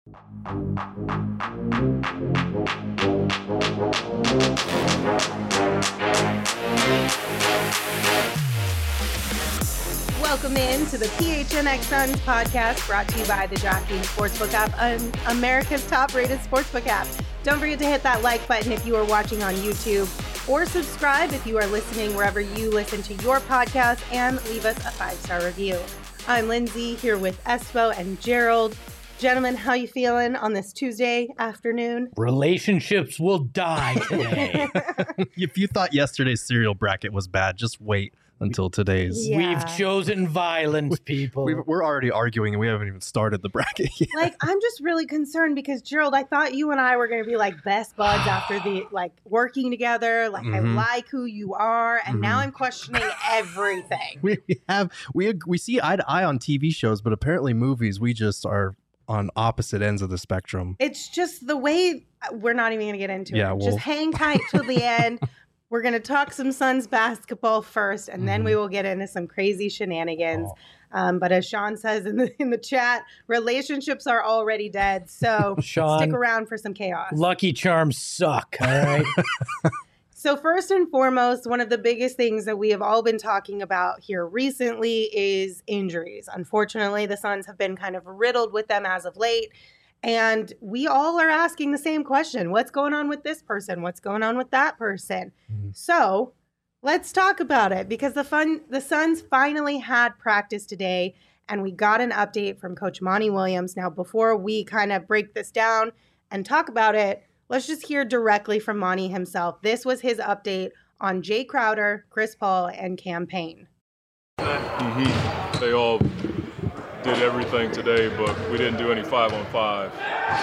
Welcome in to the PHNX Suns podcast, brought to you by the DraftKings Sportsbook app, America's top-rated sportsbook app. Don't forget to hit that like button if you are watching on YouTube, or subscribe if you are listening wherever you listen to your podcast, and leave us a 5-star review. I'm Lindsay, here with Espo and Gerald. Gentlemen, how you feeling on this Tuesday afternoon? Relationships will die today. If you thought yesterday's cereal bracket was bad, just wait until today's. Yeah. We've chosen violence, people. We're already arguing and we haven't even started the bracket yet. Like, I'm just really concerned because, Gerald, I thought you and I were going to be like best buds after the working together. Like, I like who you are, and now I'm questioning everything. We see eye to eye on TV shows, but apparently movies, we just are on opposite ends of the spectrum. It's just the way we're not even going to get into it. Well, just hang tight till the end. We're going to talk some Suns basketball first, and then we will get into some crazy shenanigans. But as Sean says in the chat, relationships are already dead. So Sean, stick around for some chaos. Lucky Charms suck, all right? So first and foremost, one of the biggest things that we have all been talking about here recently is injuries. Unfortunately, the Suns have been kind of riddled with them as of late. And we all are asking the same question. What's going on with this person? What's going on with that person? So let's talk about it, because the Suns finally had practice today, and we got an update from Coach Monty Williams. Now, before we kind of break this down and talk about it, let's just hear directly from Monty himself. This was his update on Jay Crowder, Chris Paul, and Cam Payne. They all did everything today, but we didn't do any 5-on-5.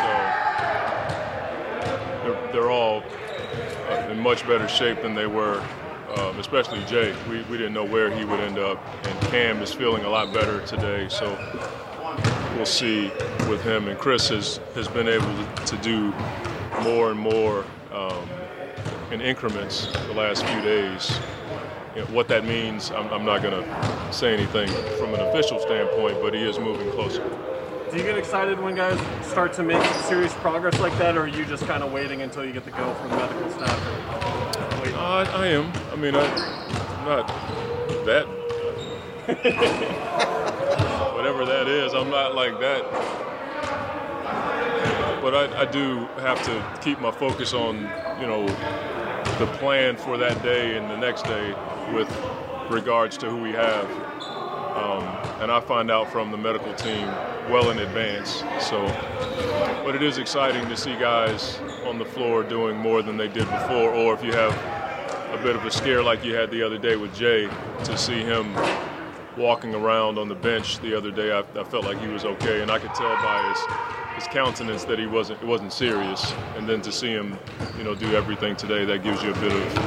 So they're all in much better shape than they were, especially Jay. We didn't know where he would end up, and Cam is feeling a lot better today. So we'll see with him. And Chris has been able to do more and more in increments the last few days. You know, what that means, I'm not going to say anything from an official standpoint, but he is moving closer. Do you get excited when guys start to make serious progress like that, or are you just kind of waiting until you get the go from the medical staff? I am. I mean, I'm not that. Whatever that is, I'm not like that. But I do have to keep my focus on, the plan for that day and the next day with regards to who we have. And I find out from the medical team well in advance. But it is exciting to see guys on the floor doing more than they did before, or if you have a bit of a scare like you had the other day with Jay, to see him walking around on the bench the other day, I felt like he was okay, and I could tell by his countenance that it wasn't serious. And then to see him, do everything today, that gives you a bit of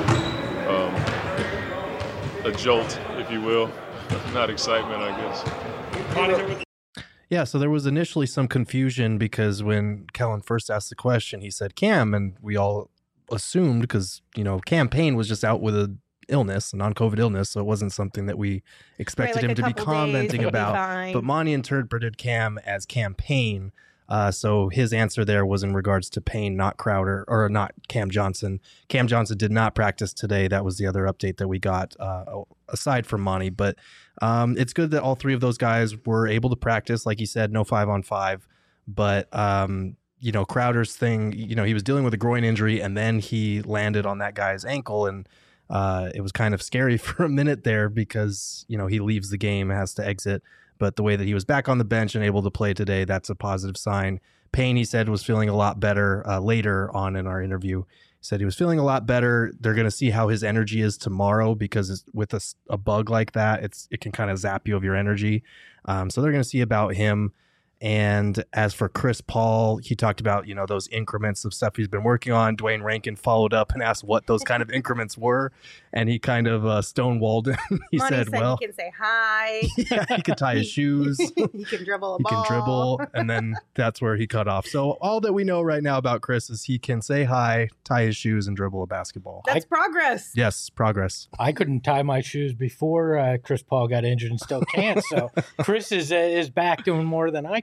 a jolt, if you will. Not excitement, I guess. Yeah, so there was initially some confusion because when Kellen first asked the question, he said Cam, and we all assumed, because, Cam Payne was just out with a non-COVID illness, so it wasn't something that we expected him to be commenting about. But Monty interpreted Cam as Cam Payne. So his answer there was in regards to Payne, not Crowder, or not Cam Johnson. Cam Johnson did not practice today. That was the other update that we got aside from Monty. But it's good that all three of those guys were able to practice. Like you said, no 5-on-5. But, Crowder's thing, he was dealing with a groin injury, and then he landed on that guy's ankle. And it was kind of scary for a minute there because, he leaves the game, has to exit. But the way that he was back on the bench and able to play today, that's a positive sign. Payne, he said, was feeling a lot better later on in our interview. He said he was feeling a lot better. They're going to see how his energy is tomorrow, because with a bug like that, it can kind of zap you of your energy. So they're going to see about him. And as for Chris Paul, he talked about, those increments of stuff he's been working on. Dwayne Rankin followed up and asked what those kind of increments were. And he kind of stonewalled him. He said, well, he can say hi. Yeah, he can tie his shoes. He can dribble a ball. He can dribble. And then that's where he cut off. So all that we know right now about Chris is he can say hi, tie his shoes, and dribble a basketball. That's progress. Yes, progress. I couldn't tie my shoes before Chris Paul got injured and still can't. So Chris is back doing more than I can.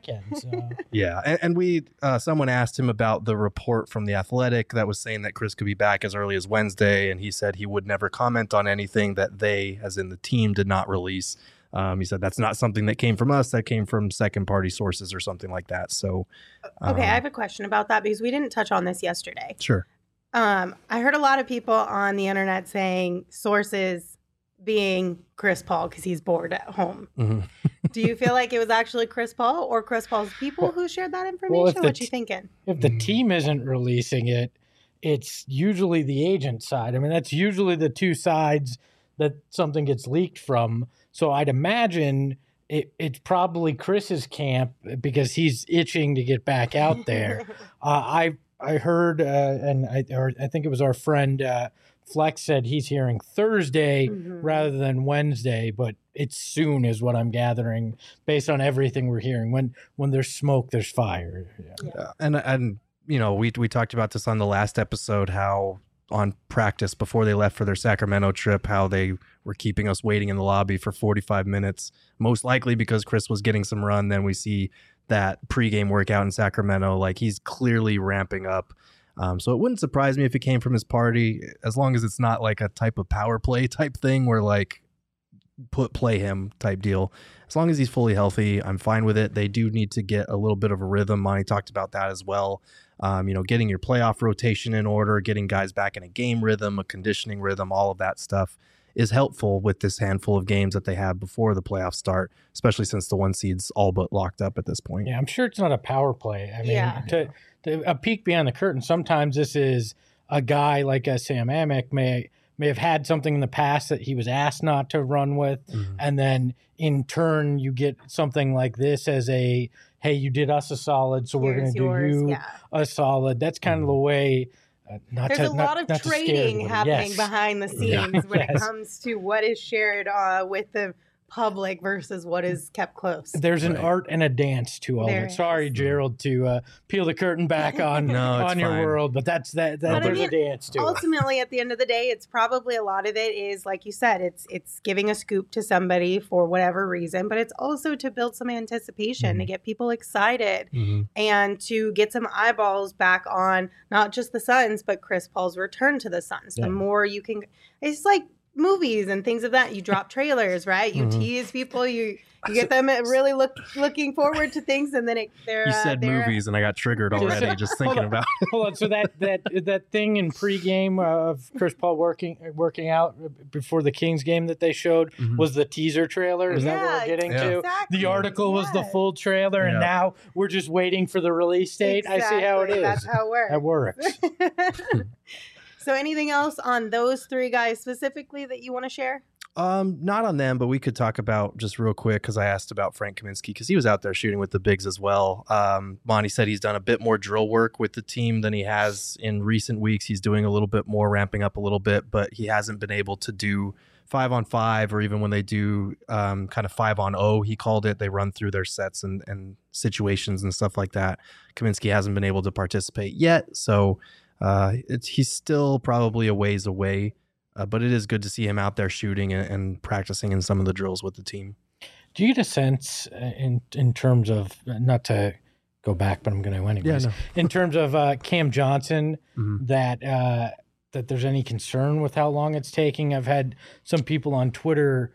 weekend. So. Yeah, and we someone asked him about the report from The Athletic that was saying that Chris could be back as early as Wednesday, and he said he would never comment on anything that they, as in the team, did not release. He said that's not something that came from us, that came from second-party sources or something like that. So, okay, I have a question about that because we didn't touch on this yesterday. Sure. I heard a lot of people on the internet saying sources being Chris Paul because he's bored at home. Mm-hmm. Do you feel like it was actually Chris Paul or Chris Paul's people who shared that information? What you thinking? If the team isn't releasing it, it's usually the agent side. I mean, that's usually the two sides that something gets leaked from. So I'd imagine it's probably Chris's camp because he's itching to get back out there. I heard, I think it was our friend Flex said he's hearing Thursday rather than Wednesday, but it's soon is what I'm gathering based on everything we're hearing. When there's smoke, there's fire. Yeah. And you know, we talked about this on the last episode, how on practice before they left for their Sacramento trip, how they were keeping us waiting in the lobby for 45 minutes, most likely because Chris was getting some run. Then we see that pregame workout in Sacramento, like he's clearly ramping up. So it wouldn't surprise me if it came from his party, as long as it's not like a type of power play type thing where like play him type deal. As long as he's fully healthy, I'm fine with it. They do need to get a little bit of a rhythm. Monty talked about that as well. You know, getting your playoff rotation in order, getting guys back in a game rhythm, a conditioning rhythm, all of that stuff is helpful with this handful of games that they have before the playoffs start, especially since the 1 seed's all but locked up at this point. Yeah, I'm sure it's not a power play. I mean, to a peek behind the curtain, sometimes this is a guy like a Sam Amick may have had something in the past that he was asked not to run with, and then in turn you get something like this as a, hey, you did us a solid, so we're going to do you a solid. That's kind of the way. There's a lot of trading happening behind the scenes when it comes to what is shared with the public versus what is kept close. There's an art and a dance to all of it. Sorry, Gerald, to peel the curtain back on on your world, but there's a dance to it. Ultimately, at the end of the day, it's probably a lot of it is, like you said, it's giving a scoop to somebody for whatever reason, but it's also to build some anticipation, to get people excited, and to get some eyeballs back on not just the Suns, but Chris Paul's return to the Suns. The more you can, it's like movies and things of that. You drop trailers, right? You tease people. You get them really looking forward to things, and then you said movies, and I got triggered already just thinking about it. Hold on. So that thing in pregame of Chris Paul working out before the Kings game that they showed was the teaser trailer. Is that what we're getting to? Exactly. The article was the full trailer, and now we're just waiting for the release date. Exactly. I see how it is. That's how it works. That works. So anything else on those three guys specifically that you want to share? Not on them, but we could talk about just real quick, because I asked about Frank Kaminsky because he was out there shooting with the bigs as well. Monty said he's done a bit more drill work with the team than he has in recent weeks. He's doing a little bit more, ramping up a little bit, but he hasn't been able to do 5-on-5, or even when they do kind of 5-on-0, he called it. They run through their sets and situations and stuff like that. Kaminsky hasn't been able to participate yet, so he's still probably a ways away, but it is good to see him out there shooting and practicing in some of the drills with the team. Do you get a sense in terms of, not to go back, but I'm going to anyways, in terms of Cam Johnson, that there's any concern with how long it's taking? I've had some people on Twitter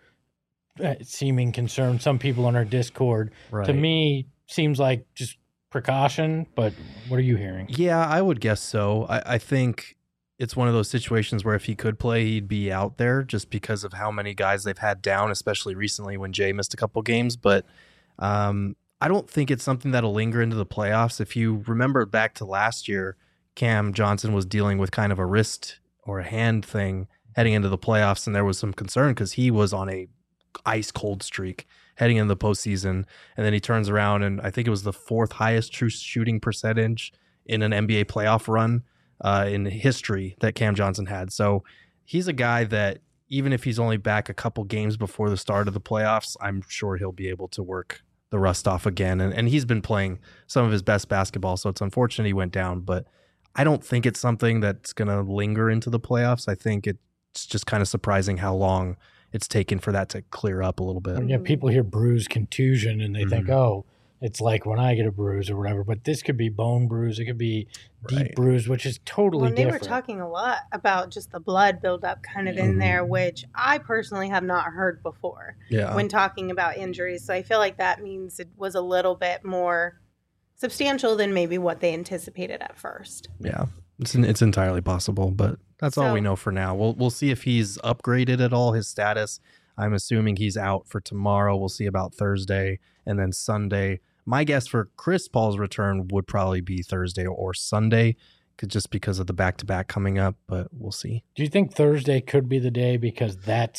seeming concerned, some people on our Discord. Right. To me, seems like just precaution, but what are you hearing? Yeah, I would guess so. I think it's one of those situations where if he could play, he'd be out there just because of how many guys they've had down, especially recently when Jay missed a couple games. But I don't think it's something that'll linger into the playoffs. If you remember back to last year, Cam Johnson was dealing with kind of a wrist or a hand thing heading into the playoffs, and there was some concern because he was on a ice cold streak heading into the postseason, and then he turns around, and I think it was the 4th highest true shooting percentage in an NBA playoff run in history that Cam Johnson had. So he's a guy that even if he's only back a couple games before the start of the playoffs, I'm sure he'll be able to work the rust off again. And he's been playing some of his best basketball, so it's unfortunate he went down, but I don't think it's something that's going to linger into the playoffs. I think it's just kind of surprising how long it's taken for that to clear up a little bit. Yeah, people hear bruise, contusion, and they think, oh, it's like when I get a bruise or whatever. But this could be bone bruise. It could be deep Right. bruise, which is totally Well, they different. were talking a lot about just the blood buildup kind of in there, which I personally have not heard before Yeah. when talking about injuries. So I feel like that means it was a little bit more substantial than maybe what they anticipated at first. Yeah. It's entirely possible, but that's all we So- know for now. We'll see if he's upgraded at all, his status. I'm assuming he's out for tomorrow. We'll see about Thursday and then Sunday. My guess for Chris Paul's return would probably be Thursday or Sunday, just because of the back-to-back coming up, but we'll see. Do you think Thursday could be the day? Because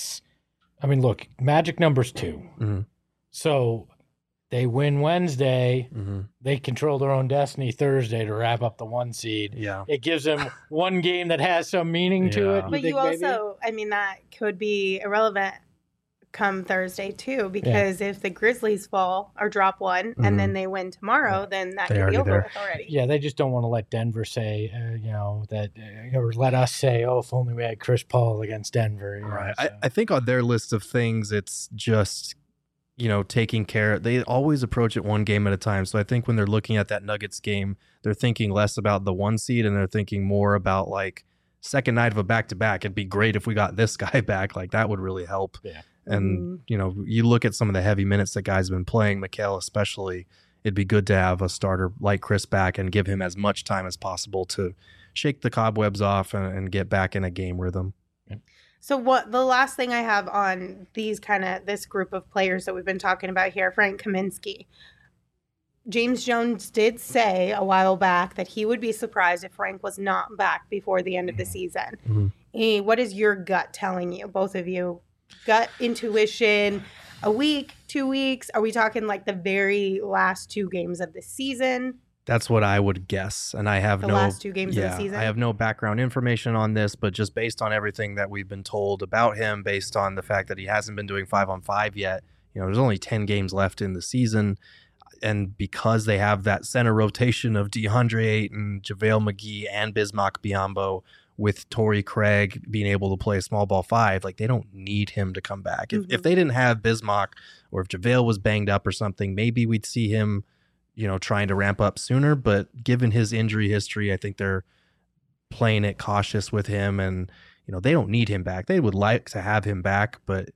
look, Magic number's 2. Mhm. So they win Wednesday. Mm-hmm. They control their own destiny Thursday to wrap up the 1 seed. Yeah. It gives them one game that has some meaning to Yeah. it. But think you maybe? also, that could be irrelevant come Thursday too, because if the Grizzlies fall or drop one and then they win tomorrow, then that They could be already over there. with already. Yeah, they just don't want to let Denver say, or let us say, oh, if only we had Chris Paul against Denver. Right. So. I think on their list of things, it's just, taking care. They always approach it one game at a time. So I think when they're looking at that Nuggets game, they're thinking less about the 1 seed and they're thinking more about like second night of a back-to-back. It'd be great if we got this guy back. Like that would really help. Yeah. And, you look at some of the heavy minutes that guys have been playing, Mikal especially, it'd be good to have a starter like Chris back and give him as much time as possible to shake the cobwebs off and get back in a game rhythm. So what the last thing I have on this group of players that we've been talking about here, Frank Kaminsky. James Jones did say a while back that he would be surprised if Frank was not back before the end of the season. What is your gut telling you, both of you? Gut intuition, a week, 2 weeks? Are we talking like the very last 2 games of the season? That's what I would guess. And I have The last 2 games of the season? I have no background information on this, but just based on everything that we've been told about him, based on the fact that he hasn't been doing 5-on-5 yet, there's only 10 games left in the season. And because they have that center rotation of DeAndre Ayton, JaVale McGee, and Bismack Biyombo, with Torrey Craig being able to play small ball 5, like they don't need him to come back. If they didn't have Bismack, or if JaVale was banged up or something, maybe we'd see him, trying to ramp up sooner. But given his injury history, I think they're playing it cautious with him, and they don't need him back. They would like to have him back, but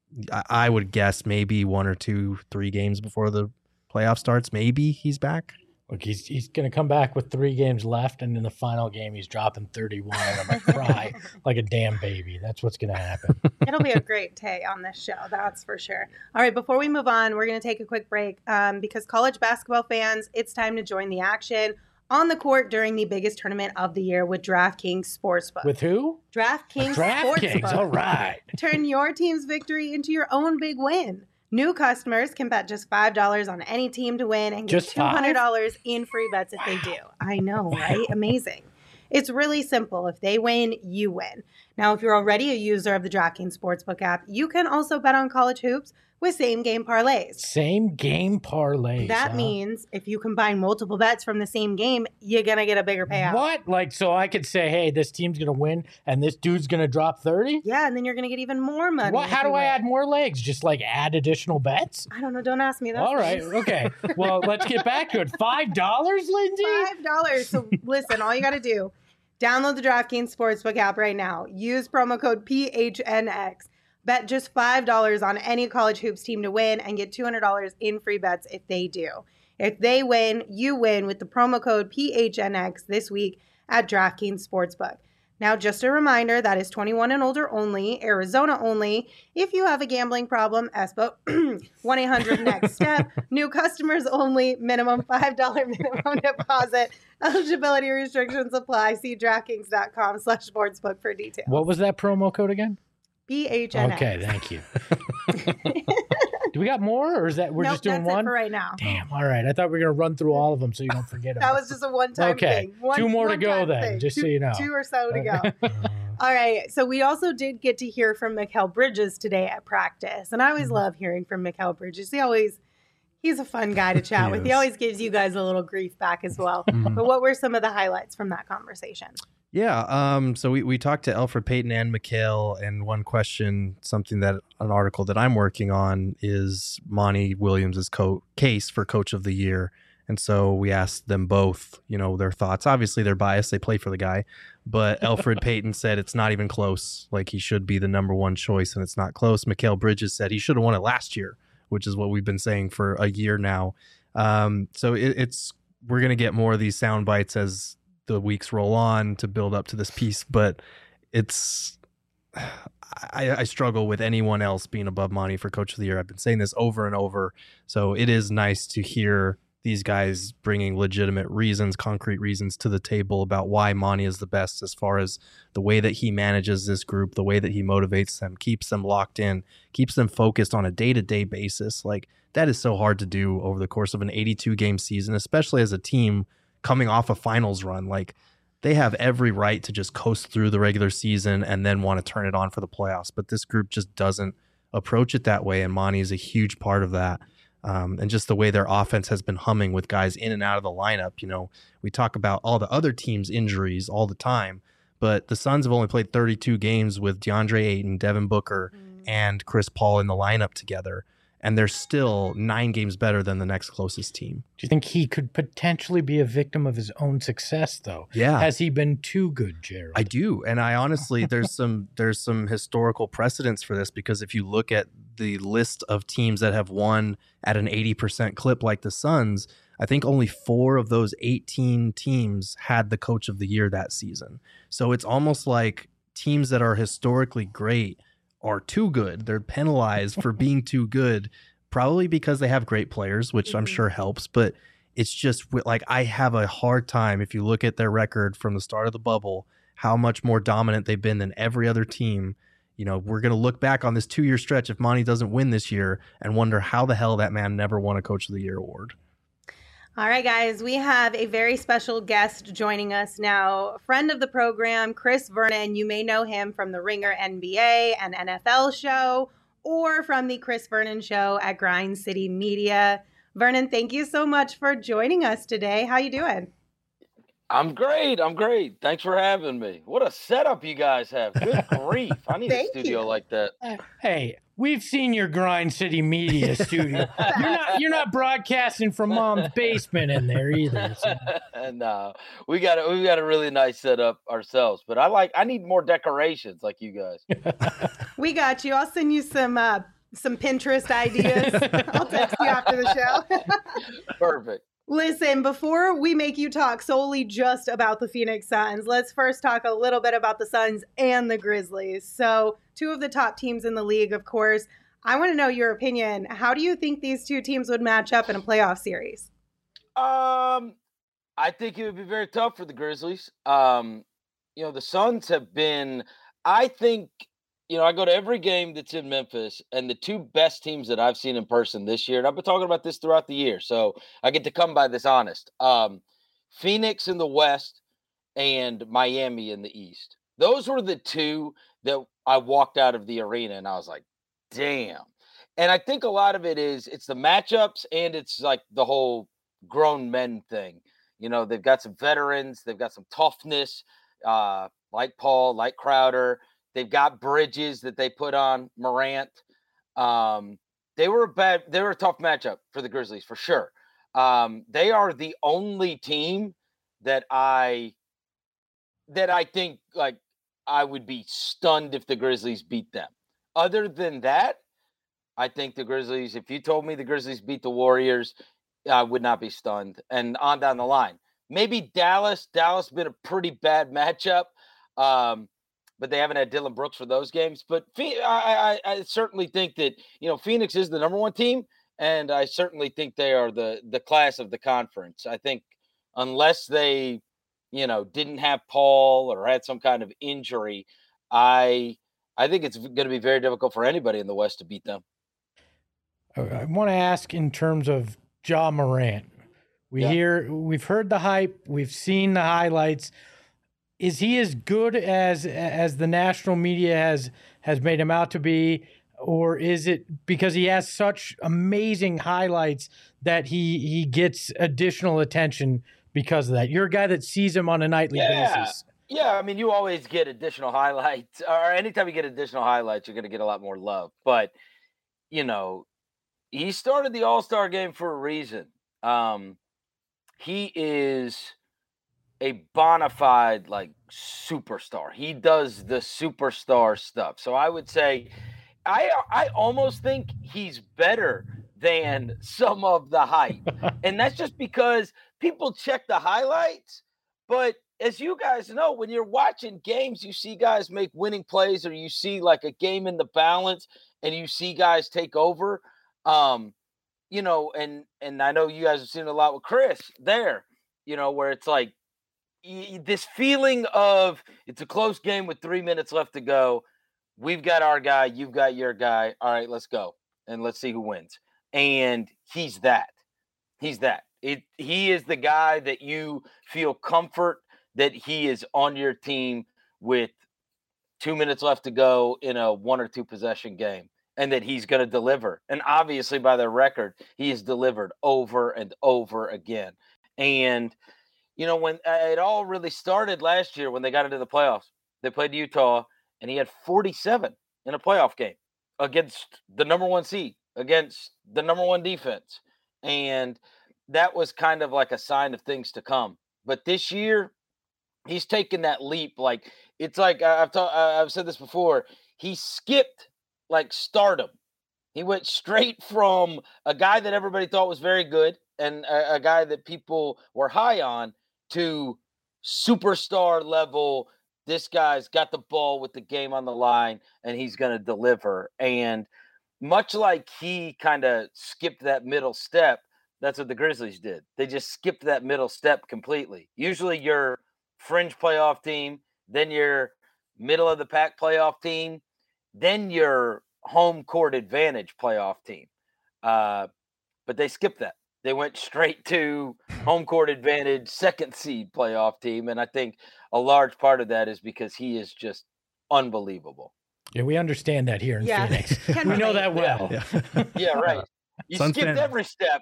I would guess maybe 1 or 2, 3 games before the playoff starts, maybe he's back. Look, he's going to come back with 3 games left, and in the final game, he's dropping 31, and I'm going to cry like a damn baby. That's what's going to happen. It'll be a great day on this show, that's for sure. All right, before we move on, we're going to take a quick break because college basketball fans, it's time to join the action on the court during the biggest tournament of the year with DraftKings Sportsbook. With who? DraftKings DraftKings, Sportsbook. all right. Turn your team's victory into your own big win. New customers can bet just $5 on any team to win and get Just $5? $200 in free bets if they do. I know, right? Amazing. It's really simple. If they win, you win. Now, if you're already a user of the DraftKings Sportsbook app, you can also bet on college hoops with same-game parlays. Same game parlays. That huh? means if you combine multiple bets from the same game, you're going to get a bigger payout. What? Like, so I could say, hey, this team's going to win, and this dude's going to drop 30? Yeah, and then you're going to get even more money. What? if How you do I win. add more legs? Just like add additional bets? I don't know. Don't ask me that. All right. Okay. Well, let's get back to it. $5, Lindsay? $5. So listen, all you got to do, download the DraftKings Sportsbook app right now. Use promo code PHNX. Bet just $5 on any college hoops team to win and get $200 in free bets if they do. If they win, you win with the promo code PHNX this week at DraftKings Sportsbook. Now, just a reminder, that is 21 and older only, Arizona only. If you have a gambling problem, ESPO, 1-800-NEXT-STEP. New customers only, minimum $5 minimum deposit. Eligibility restrictions apply. See DraftKings.com/sportsbook for details. What was that promo code again? PHNX. Okay, thank you. Do we got more, or is that we're Nope, just doing that's one? it for right now. Damn. All right. I thought we were going to run through all of them so you don't forget them. That was just a one-time Okay, thing. 2 more to go one-time then, thing. just so you know. 2 or so to go. All right. So we also did get to hear from Mikal Bridges today at practice. And I always love hearing from Mikal Bridges. He's a fun guy to chat with. He is. always gives you guys a little grief back as well. But what were some of the highlights from that conversation? Yeah. So we talked to Elfrid Payton and Mikal, and one question, an article that I'm working on is Monty Williams' case for Coach of the Year. And so we asked them both, their thoughts. Obviously, they're biased. They play for the guy. But Elfrid Payton said it's not even close. Like, he should be the number one choice, and it's not close. Mikal Bridges said he should have won it last year, which is what we've been saying for a year now. So we're going to get more of these sound bites as the weeks roll on to build up to this piece. But I struggle with anyone else being above Monty for Coach of the Year. I've been saying this over and over. So it is nice to hear these guys bringing legitimate reasons, concrete reasons to the table about why Monty is the best, as far as the way that he manages this group, the way that he motivates them, keeps them locked in, keeps them focused on a day-to-day basis. Like, that is so hard to do over the course of an 82-game season, especially as a team coming off a finals run. Like, they have every right to just coast through the regular season and then want to turn it on for the playoffs. But this group just doesn't approach it that way, and Monty is a huge part of that. And just the way their offense has been humming with guys in and out of the lineup. We talk about all the other teams' injuries all the time, but the Suns have only played 32 games with DeAndre Ayton, Devin Booker, and Chris Paul in the lineup together, and they're still 9 games better than the next closest team. Do you think he could potentially be a victim of his own success, though? Yeah. Has he been too good, Gerald? I do. And I honestly, there's some historical precedence for this, because if you look at the list of teams that have won at an 80% clip like the Suns, I think only 4 of those 18 teams had the Coach of the Year that season. So it's almost like teams that are historically great are too good. They're penalized for being too good, probably because they have great players, which I'm sure helps. But it's just like, I have a hard time, if you look at their record from the start of the bubble, how much more dominant they've been than every other team. We're going to look back on this 2-year stretch if Monty doesn't win this year and wonder how the hell that man never won a Coach of the Year award. All right, guys, we have a very special guest joining us now. A friend of the program, Chris Vernon. You may know him from the Ringer NBA and NFL show, or from the Chris Vernon Show at Grind City Media. Vernon, thank you so much for joining us today. How you doing? I'm great. Thanks for having me. What a setup you guys have. Good grief. I need a studio like that. Hey, we've seen your Grind City Media studio. You're not broadcasting from Mom's basement in there either. So. No, we got a really nice setup ourselves, but I need more decorations like you guys. We got you. I'll send you some Pinterest ideas. I'll text you after the show. Perfect. Listen, before we make you talk solely just about the Phoenix Suns, let's first talk a little bit about the Suns and the Grizzlies. So, 2 of the top teams in the league, of course. I want to know your opinion. How do you think these 2 teams would match up in a playoff series? I think it would be very tough for the Grizzlies. The Suns have been, I think, I go to every game that's in Memphis, and the 2 best teams that I've seen in person this year, and I've been talking about this throughout the year, so I get to come by this honest. Phoenix in the West and Miami in the East. Those were the 2 that I walked out of the arena, and I was like, damn. And I think a lot of it's the matchups, and it's like the whole grown men thing. They've got some veterans, they've got some toughness, like Paul, like Crowder. They've got Bridges that they put on Morant. They were a tough matchup for the Grizzlies for sure. They are the only team that I think, like, I would be stunned if the Grizzlies beat them. Other than that, I think the Grizzlies, if you told me the Grizzlies beat the Warriors, I would not be stunned. And on down the line, maybe Dallas been a pretty bad matchup. But they haven't had Dylan Brooks for those games. But I certainly think that, Phoenix is the number 1 team, and I certainly think they are the class of the conference. I think unless they, didn't have Paul or had some kind of injury, I think it's going to be very difficult for anybody in the West to beat them. I want to ask in terms of Ja Morant. We've heard the hype, we've seen the highlights. Is he as good as the national media has made him out to be, or is it because he has such amazing highlights that he gets additional attention because of that? You're a guy that sees him on a nightly basis. Yeah, I mean, you always get additional highlights, or anytime you get additional highlights, you're going to get a lot more love. But, you know, he started the All-Star game for a reason. He is a bona fide like superstar. He does the superstar stuff. So I would say I almost think he's better than some of the hype. And that's just because people check the highlights, but as you guys know, when you're watching games, you see guys make winning plays, or you see like a game in the balance and you see guys take over. You know, and I know you guys have seen a lot with Chris there, you know, where it's like this feeling of it's a close game with 3 minutes left to go. We've got our guy, you've got your guy. All right, let's go and let's see who wins. And he's that. He's that. He is the guy that you feel comfort that he is on your team with 2 minutes left to go in a 1 or 2 possession game, and that he's going to deliver. And obviously, by their record, he has delivered over and over again. And, you know, when it all really started last year when they got into the playoffs, they played Utah, and he had 47 in a playoff game against the number 1 seed, against the number 1 defense. And that was kind of like a sign of things to come. But this year, he's taken that leap. Like, it's like I've said this before. He skipped like stardom. He went straight from a guy that everybody thought was very good and a guy that people were high on to superstar level. This guy's got the ball with the game on the line, and he's going to deliver. And much like he kind of skipped that middle step, that's what the Grizzlies did. They just skipped that middle step completely. Usually your fringe playoff team, then your middle of the pack playoff team, then your home court advantage playoff team. But they skipped that. They went straight to home court advantage, second seed playoff team. And I think a large part of that is because he is just unbelievable. Yeah, we understand that here in Phoenix. We know that well. Yeah, right. You Suns skipped every step.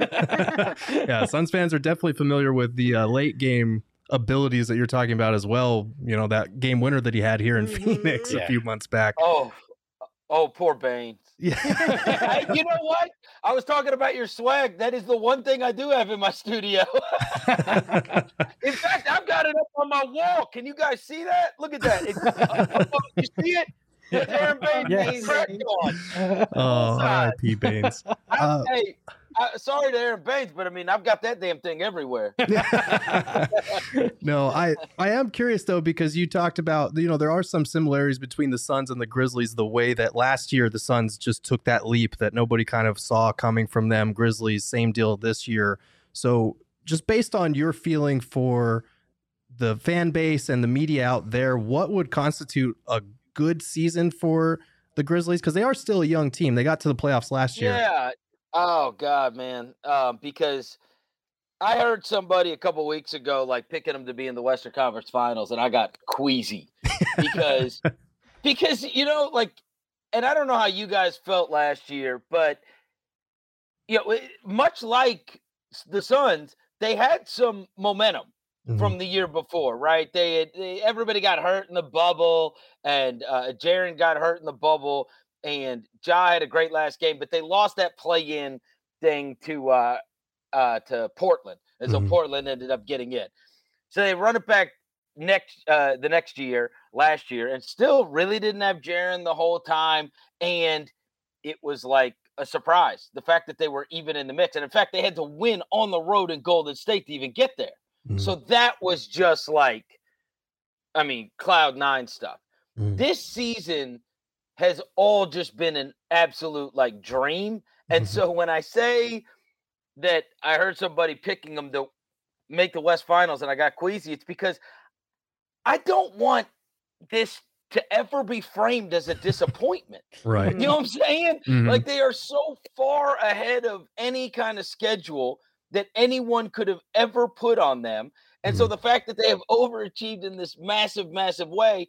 Yeah, Suns fans are definitely familiar with the late game abilities that you're talking about as well. You know, that game winner that he had here in Phoenix a few months back. Oh, poor Baines. Yeah. You know what? I was talking about your swag. That is the one thing I do have in my studio. In fact, I've got it up on my wall. Can you guys see that? Look at that. You see it? It's Aaron Baines. Yes. Oh, R.I.P. Baines. Hey, sorry to Aaron Baines, but I mean, I've got that damn thing everywhere. No, I am curious though, because you talked about, you know, there are some similarities between the Suns and the Grizzlies, the way that last year the Suns just took that leap that nobody kind of saw coming from them. Grizzlies, same deal this year. So just based on your feeling for the fan base and the media out there, what would constitute a good season for the Grizzlies? Because they are still a young team. They got to the playoffs last year. Yeah. Oh God, man. Because I heard somebody a couple weeks ago like picking them to be in the Western Conference Finals, and I got queasy because you know, like, and I don't know how you guys felt last year, but you know, much like the Suns, they had some momentum from the year before, right? Everybody got hurt in the bubble, and Jaren got hurt in the bubble, and Ja had a great last game, but they lost that play-in thing to Portland, and so Portland ended up getting in. So they run it back the next year, last year, and still really didn't have Jaren the whole time, and it was like a surprise, the fact that they were even in the mix. And in fact, they had to win on the road in Golden State to even get there. So that was just like, I mean, cloud nine stuff. This season has all just been an absolute like dream. And so when I say that I heard somebody picking them to make the West Finals and I got queasy, it's because I don't want this to ever be framed as a disappointment. Right. You know what I'm saying? Like, they are so far ahead of any kind of schedule that anyone could have ever put on them. And so the fact that they have overachieved in this massive, massive way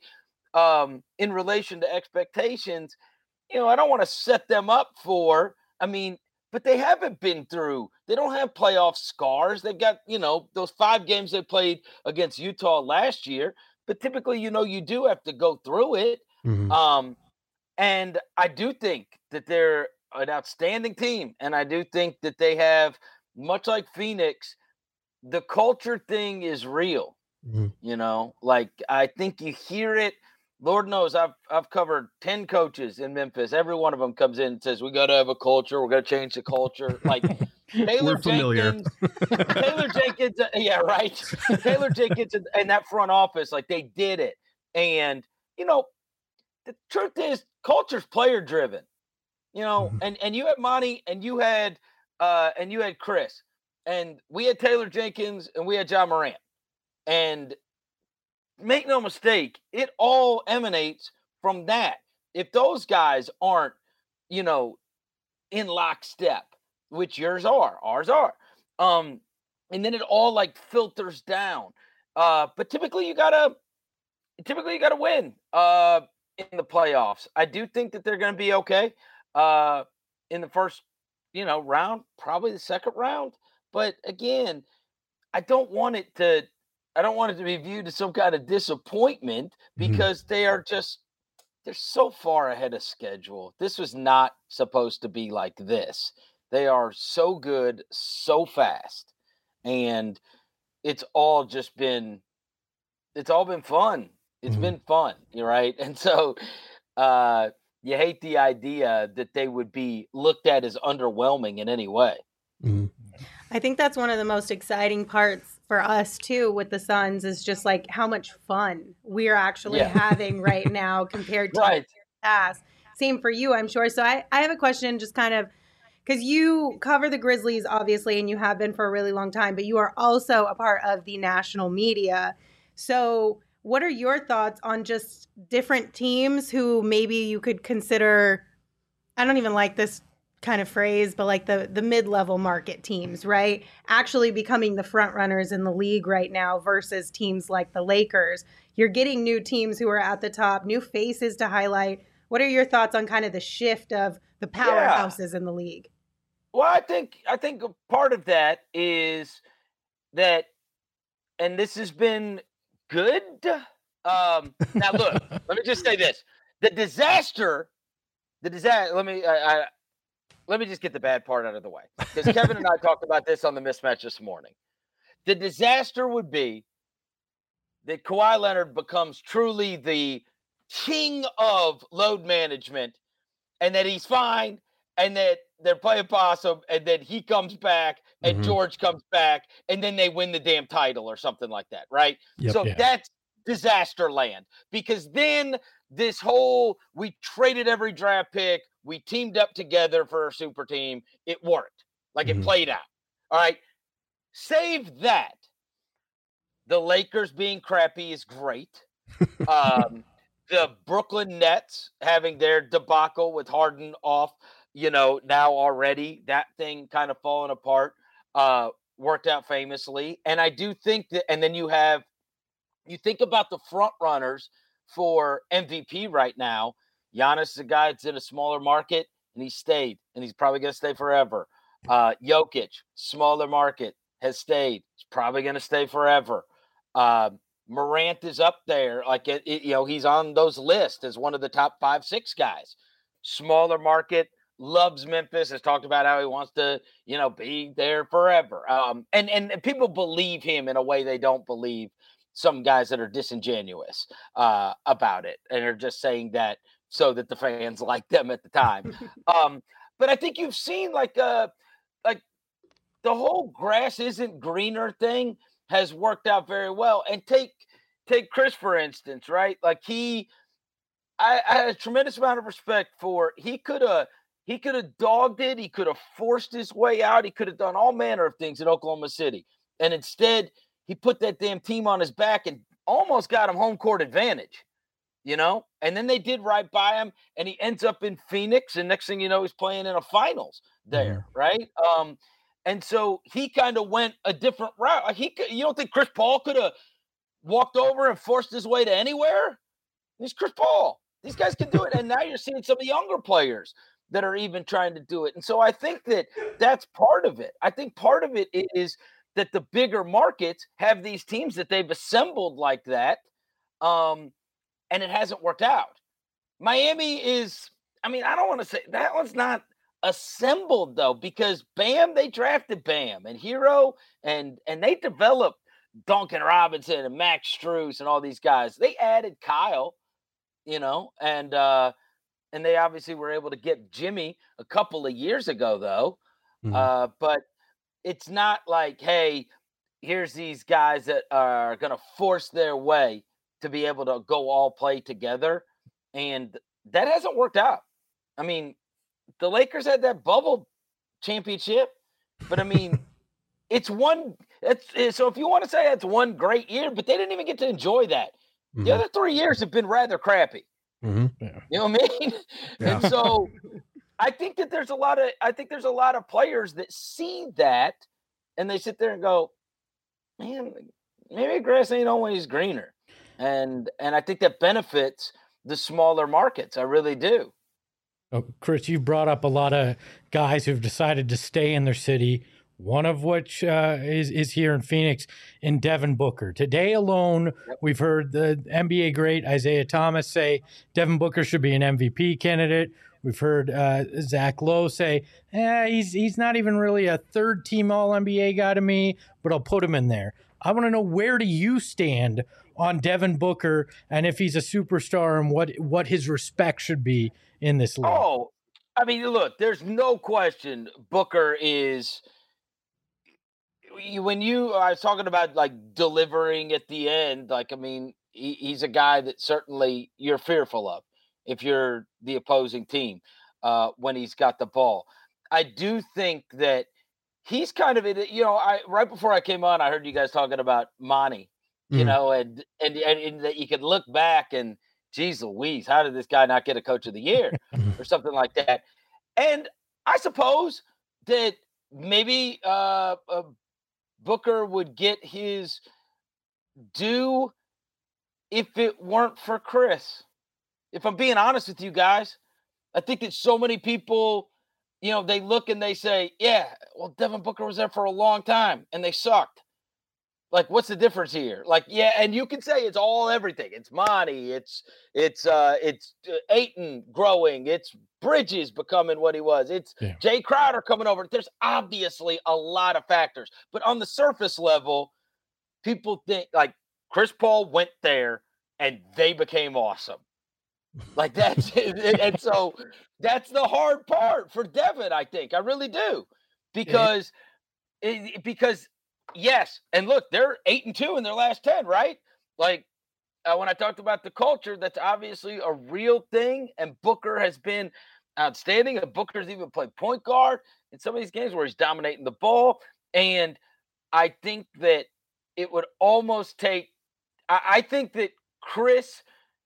in relation to expectations, you know, I don't want to set them up for, I mean, but they haven't been through, they don't have playoff scars. They've got, you know, those 5 games they played against Utah last year. but typically, you do have to go through it. Mhm. And I do think that they're an outstanding team. And I do think that they have, much like Phoenix, the culture thing is real. Mhm. Like I think you hear it. Lord knows I've covered 10 coaches in Memphis. Every one of them comes in and says, we got to have a culture. We're going to change the culture. Like We're familiar. Taylor Jenkins, yeah, right. Taylor Jenkins and that front office, like they did it. And, the truth is culture's player driven, Mhm. and you had Monty and you had Chris, and we had Taylor Jenkins and we had John Morant. And make no mistake, it all emanates from that. If those guys aren't, you know, in lockstep, which ours are, and then it all like filters down. But typically you gotta win in the playoffs. I do think that they're gonna be okay in the first, round, probably the second round. But again, I don't want it to I don't want it to be viewed as some kind of disappointment Mhm. because they're so far ahead of schedule. This was not supposed to be like this. They are so good, so fast, and it's all just been it's all been fun. It's Mhm. been fun, you're right. And so uh you hate the idea that they would be looked at as underwhelming in any way. Mhm. I think that's one of the most exciting parts for us too with the Suns is just like how much fun we're actually Yeah. having right now compared to Right. past. Same for you, I'm sure. So I have a question just kind of because you cover the Grizzlies, obviously, and you have been for a really long time, but you are also a part of the national media. So, what are your thoughts on just different teams who maybe you could consider? I don't even like this kind of phrase, but like the mid-level market teams, right? Actually becoming the front runners in the league right now versus teams like the Lakers. You're getting new teams who are at the top, new faces to highlight. What are your thoughts on kind of the shift of the Yeah. powerhouses in the league? Well, I think a part of that is that, and this has been good. Now look, let me just say this: the disaster, the disaster. Let me just get the bad part out of the way because Kevin and I talked about this on the mismatch this morning. The disaster would be that Kawhi Leonard becomes truly the king of load management and that he's fine and that they're playing possum and then he comes back and Mhm. George comes back and then they win the damn title or something like that, right? Yep. So Yeah. that's disaster land because then this whole we traded every draft pick, we teamed up together for a super team, it worked. Like it Mhm. played out. All right. Save that. The Lakers being crappy is great. Um, the Brooklyn Nets having their debacle with Harden off, now already, that thing kind of falling apart, worked out famously. And I do think that, and then you think about the front runners for MVP right now. Giannis is a guy that's in a smaller market and he stayed and he's probably going to stay forever. Jokic, smaller market, has stayed. He's probably going to stay forever. Uh, Morant is up there. Like, he's on those lists as one of the top 5, 6 guys. Smaller market, loves Memphis, has talked about how he wants to, be there forever. And people believe him in a way they don't believe some guys that are disingenuous about it and are just saying that so that the fans like them at the time. But I think you've seen like the whole grass isn't greener thing has worked out very well. And take Chris for instance, right? Like I had a tremendous amount of respect for. He could have dogged it. He could have forced his way out. He could have done all manner of things in Oklahoma City, and instead he put that damn team on his back and almost got him home court advantage. And then they did right by him, and he ends up in Phoenix, and next thing you know, he's playing in a finals Mhm. there, right? And so he kind of went a different route. Like you don't think Chris Paul could have walked over and forced his way to anywhere? He's Chris Paul. These guys can do it. And now you're seeing some of the younger players that are even trying to do it. And so I think that that's part of it. I think part of it is that the bigger markets have these teams that they've assembled like that. and it hasn't worked out. Miami is, I mean, I don't want to say that one's not assembled though, because Bam, they drafted Bam and Hero, and they developed Duncan Robinson and Max Strus and all these guys. They added Kyle, and they obviously were able to get Jimmy a couple of years ago though. But it's not like, hey, here's these guys that are going to force their way to be able to go all play together. And that hasn't worked out. I mean, the Lakers had that bubble championship, but I mean, so if you want to say it's one great year, but they didn't even get to enjoy that. The other 3 years have been rather crappy. Yeah. You know what I mean? Yeah. And so I think that there's a lot of players that see that and they sit there and go, man, maybe grass ain't always greener. And I think that benefits the smaller markets. I really do. Oh, Chris, you brought up a lot of guys who've decided to stay in their city, one of which is here in Phoenix, in Devin Booker. Today alone, we've heard the NBA great Isaiah Thomas say Devin Booker should be an MVP candidate. We've heard Zach Lowe say, he's not even really a third-team All-NBA guy to me, but I'll put him in there. I want to know, where do you stand on Devin Booker and if he's a superstar and what his respect should be in this league? Oh, I mean, look, there's no question Booker is – I was talking about, like, delivering at the end, like, I mean, he's a guy that certainly you're fearful of if you're the opposing team when he's got the ball. I do think that he's kind of right before I came on, I heard you guys talking about Monty, and that you could look back and, geez Louise, how did this guy not get a Coach of the Year or something like that? And I suppose that maybe Booker would get his due if it weren't for Chris. If I'm being honest with you guys, I think that so many people, they look and they say, yeah, well, Devin Booker was there for a long time and they sucked. Like, what's the difference here? Like, yeah, and you can say it's all everything. It's Monty, it's Ayton growing, it's Bridges becoming what he was, it's Jay Crowder coming over. There's obviously a lot of factors, but on the surface level, people think like Chris Paul went there and they became awesome. Like that's it. And so that's the hard part for Devin, I think. I really do. Because yes, and look, they're 8-2 in their last 10, right? Like when I talked about the culture, that's obviously a real thing, and Booker has been outstanding. And Booker's even played point guard in some of these games where he's dominating the ball. And I think that it would almost take I think that Chris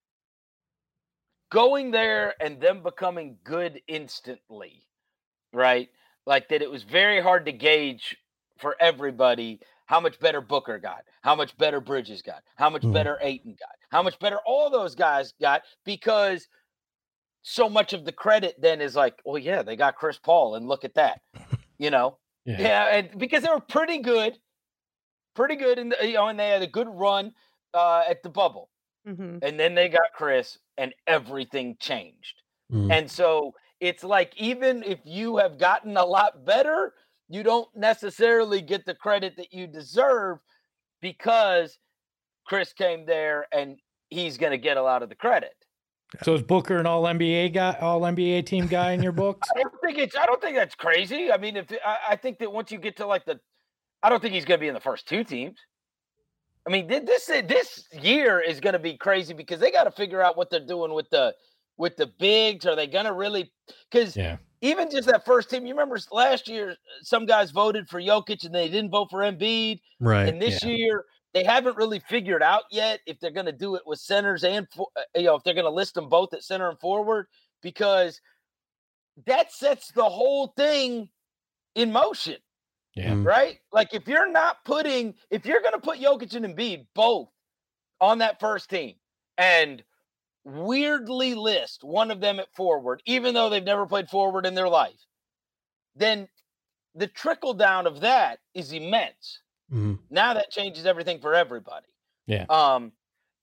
going there and them becoming good instantly, right? Like that it was very hard to gauge for everybody how much better Booker got, how much better Bridges got, how much better Ayton got, how much better all those guys got, because so much of the credit then is like, well, yeah, they got Chris Paul and look at that, Yeah, and because they were pretty good in and they had a good run at the bubble. And then they got Chris and everything changed. And so it's like, even if you have gotten a lot better, you don't necessarily get the credit that you deserve because Chris came there and he's going to get a lot of the credit. So is Booker an all-NBA team guy in your books? I don't think that's crazy. I mean, I think that once you get to I don't think he's going to be in the first two teams. I mean, this year is going to be crazy because they got to figure out what they're doing with the bigs. Are they going to really? Because even just that first team, you remember last year, some guys voted for Jokic and they didn't vote for Embiid. Right. And this year, they haven't really figured out yet if they're going to do it with centers and if they're going to list them both at center and forward, because that sets the whole thing in motion. Yeah. Right? Like if you're going to put Jokic and Embiid both on that first team and weirdly list one of them at forward, even though they've never played forward in their life, then the trickle down of that is immense. Now that changes everything for everybody. Yeah. But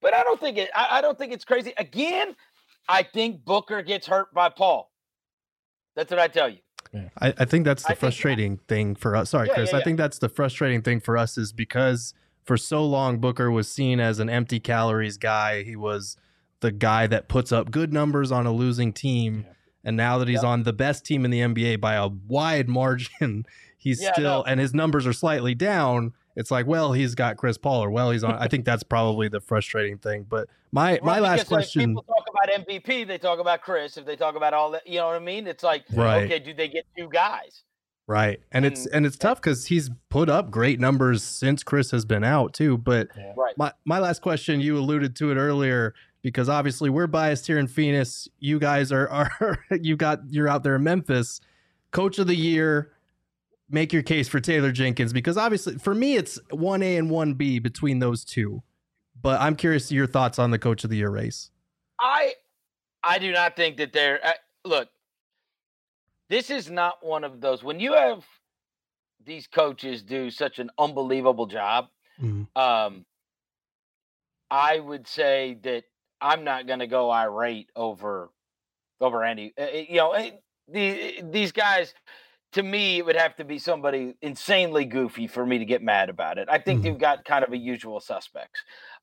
But I don't think it's crazy. Again, I think Booker gets hurt by Paul. That's what I tell you. I think that's the frustrating thing for us. Sorry, Chris. I think that's the frustrating thing for us is because for so long Booker was seen as an empty calories guy. He was the guy that puts up good numbers on a losing team. Yeah. And now that he's on the best team in the NBA by a wide margin, he's and his numbers are slightly down. It's like, well, he's got Chris Paul, or well, he's on. I think that's probably the frustrating thing. But my last question. When people talk about MVP, they talk about Chris. If they talk about all that, you know what I mean? It's like, okay, do they get two guys? Right. And it's tough because he's put up great numbers since Chris has been out too. But my last question, you alluded to it earlier, because obviously we're biased here in Phoenix. You guys are you're out there in Memphis. Coach of the year, make your case for Taylor Jenkins, because obviously for me it's 1A and 1B between those two. But I'm curious to your thoughts on the Coach of the Year race. I do not think that they're look. This is not one of those when you have these coaches do such an unbelievable job. I would say that I'm not going to go irate over any. These guys. To me, it would have to be somebody insanely goofy for me to get mad about it. I think they've got kind of a usual suspects.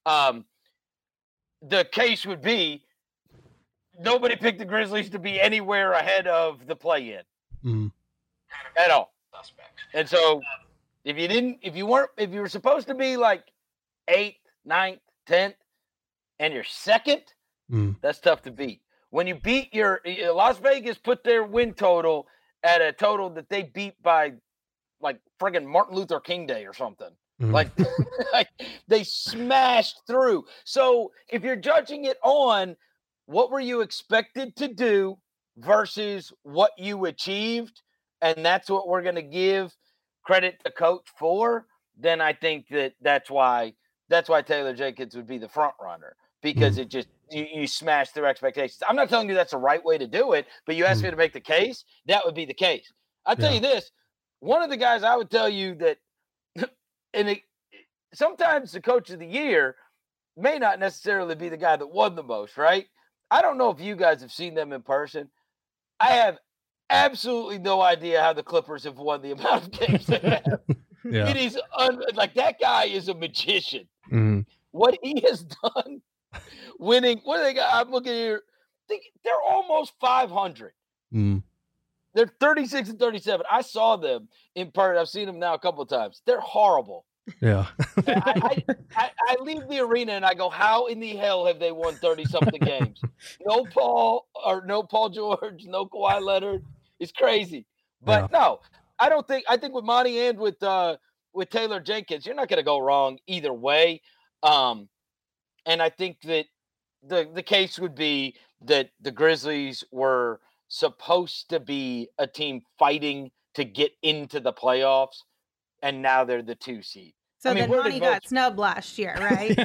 The case would be nobody picked the Grizzlies to be anywhere ahead of the play-in at all. And so if you were supposed to be like 8th, 9th, 10th, and you're second, that's tough to beat. When you beat your Las Vegas put their win total at a total that they beat by like friggin' Martin Luther King Day or something. Like they smashed through. So if you're judging it on what were you expected to do versus what you achieved, and that's what we're going to give credit to coach for, then I think that's why Taylor Jenkins would be the front runner, because it just you smash through expectations. I'm not telling you that's the right way to do it, but you asked me to make the case, that would be the case. I'll tell you this, one of the guys I would tell you that, sometimes the Coach of the Year may not necessarily be the guy that won the most, right? I don't know if you guys have seen them in person. I have absolutely no idea how the Clippers have won the amount of games they have. It is like that guy is a magician. What he has done winning, what do they got? I'm looking here. They're almost 500. They're 36 and 37. I saw them in person. I've seen them now a couple of times. They're horrible. Yeah. I leave the arena and I go, how in the hell have they won 30-something games? No Paul George, no Kawhi Leonard. It's crazy. But no, I think with Monty and with Taylor Jenkins, you're not going to go wrong either way. And I think that the case would be that the Grizzlies were supposed to be a team fighting to get into the playoffs, and now they're the 2 seed. So then Monty got snubbed last year, right?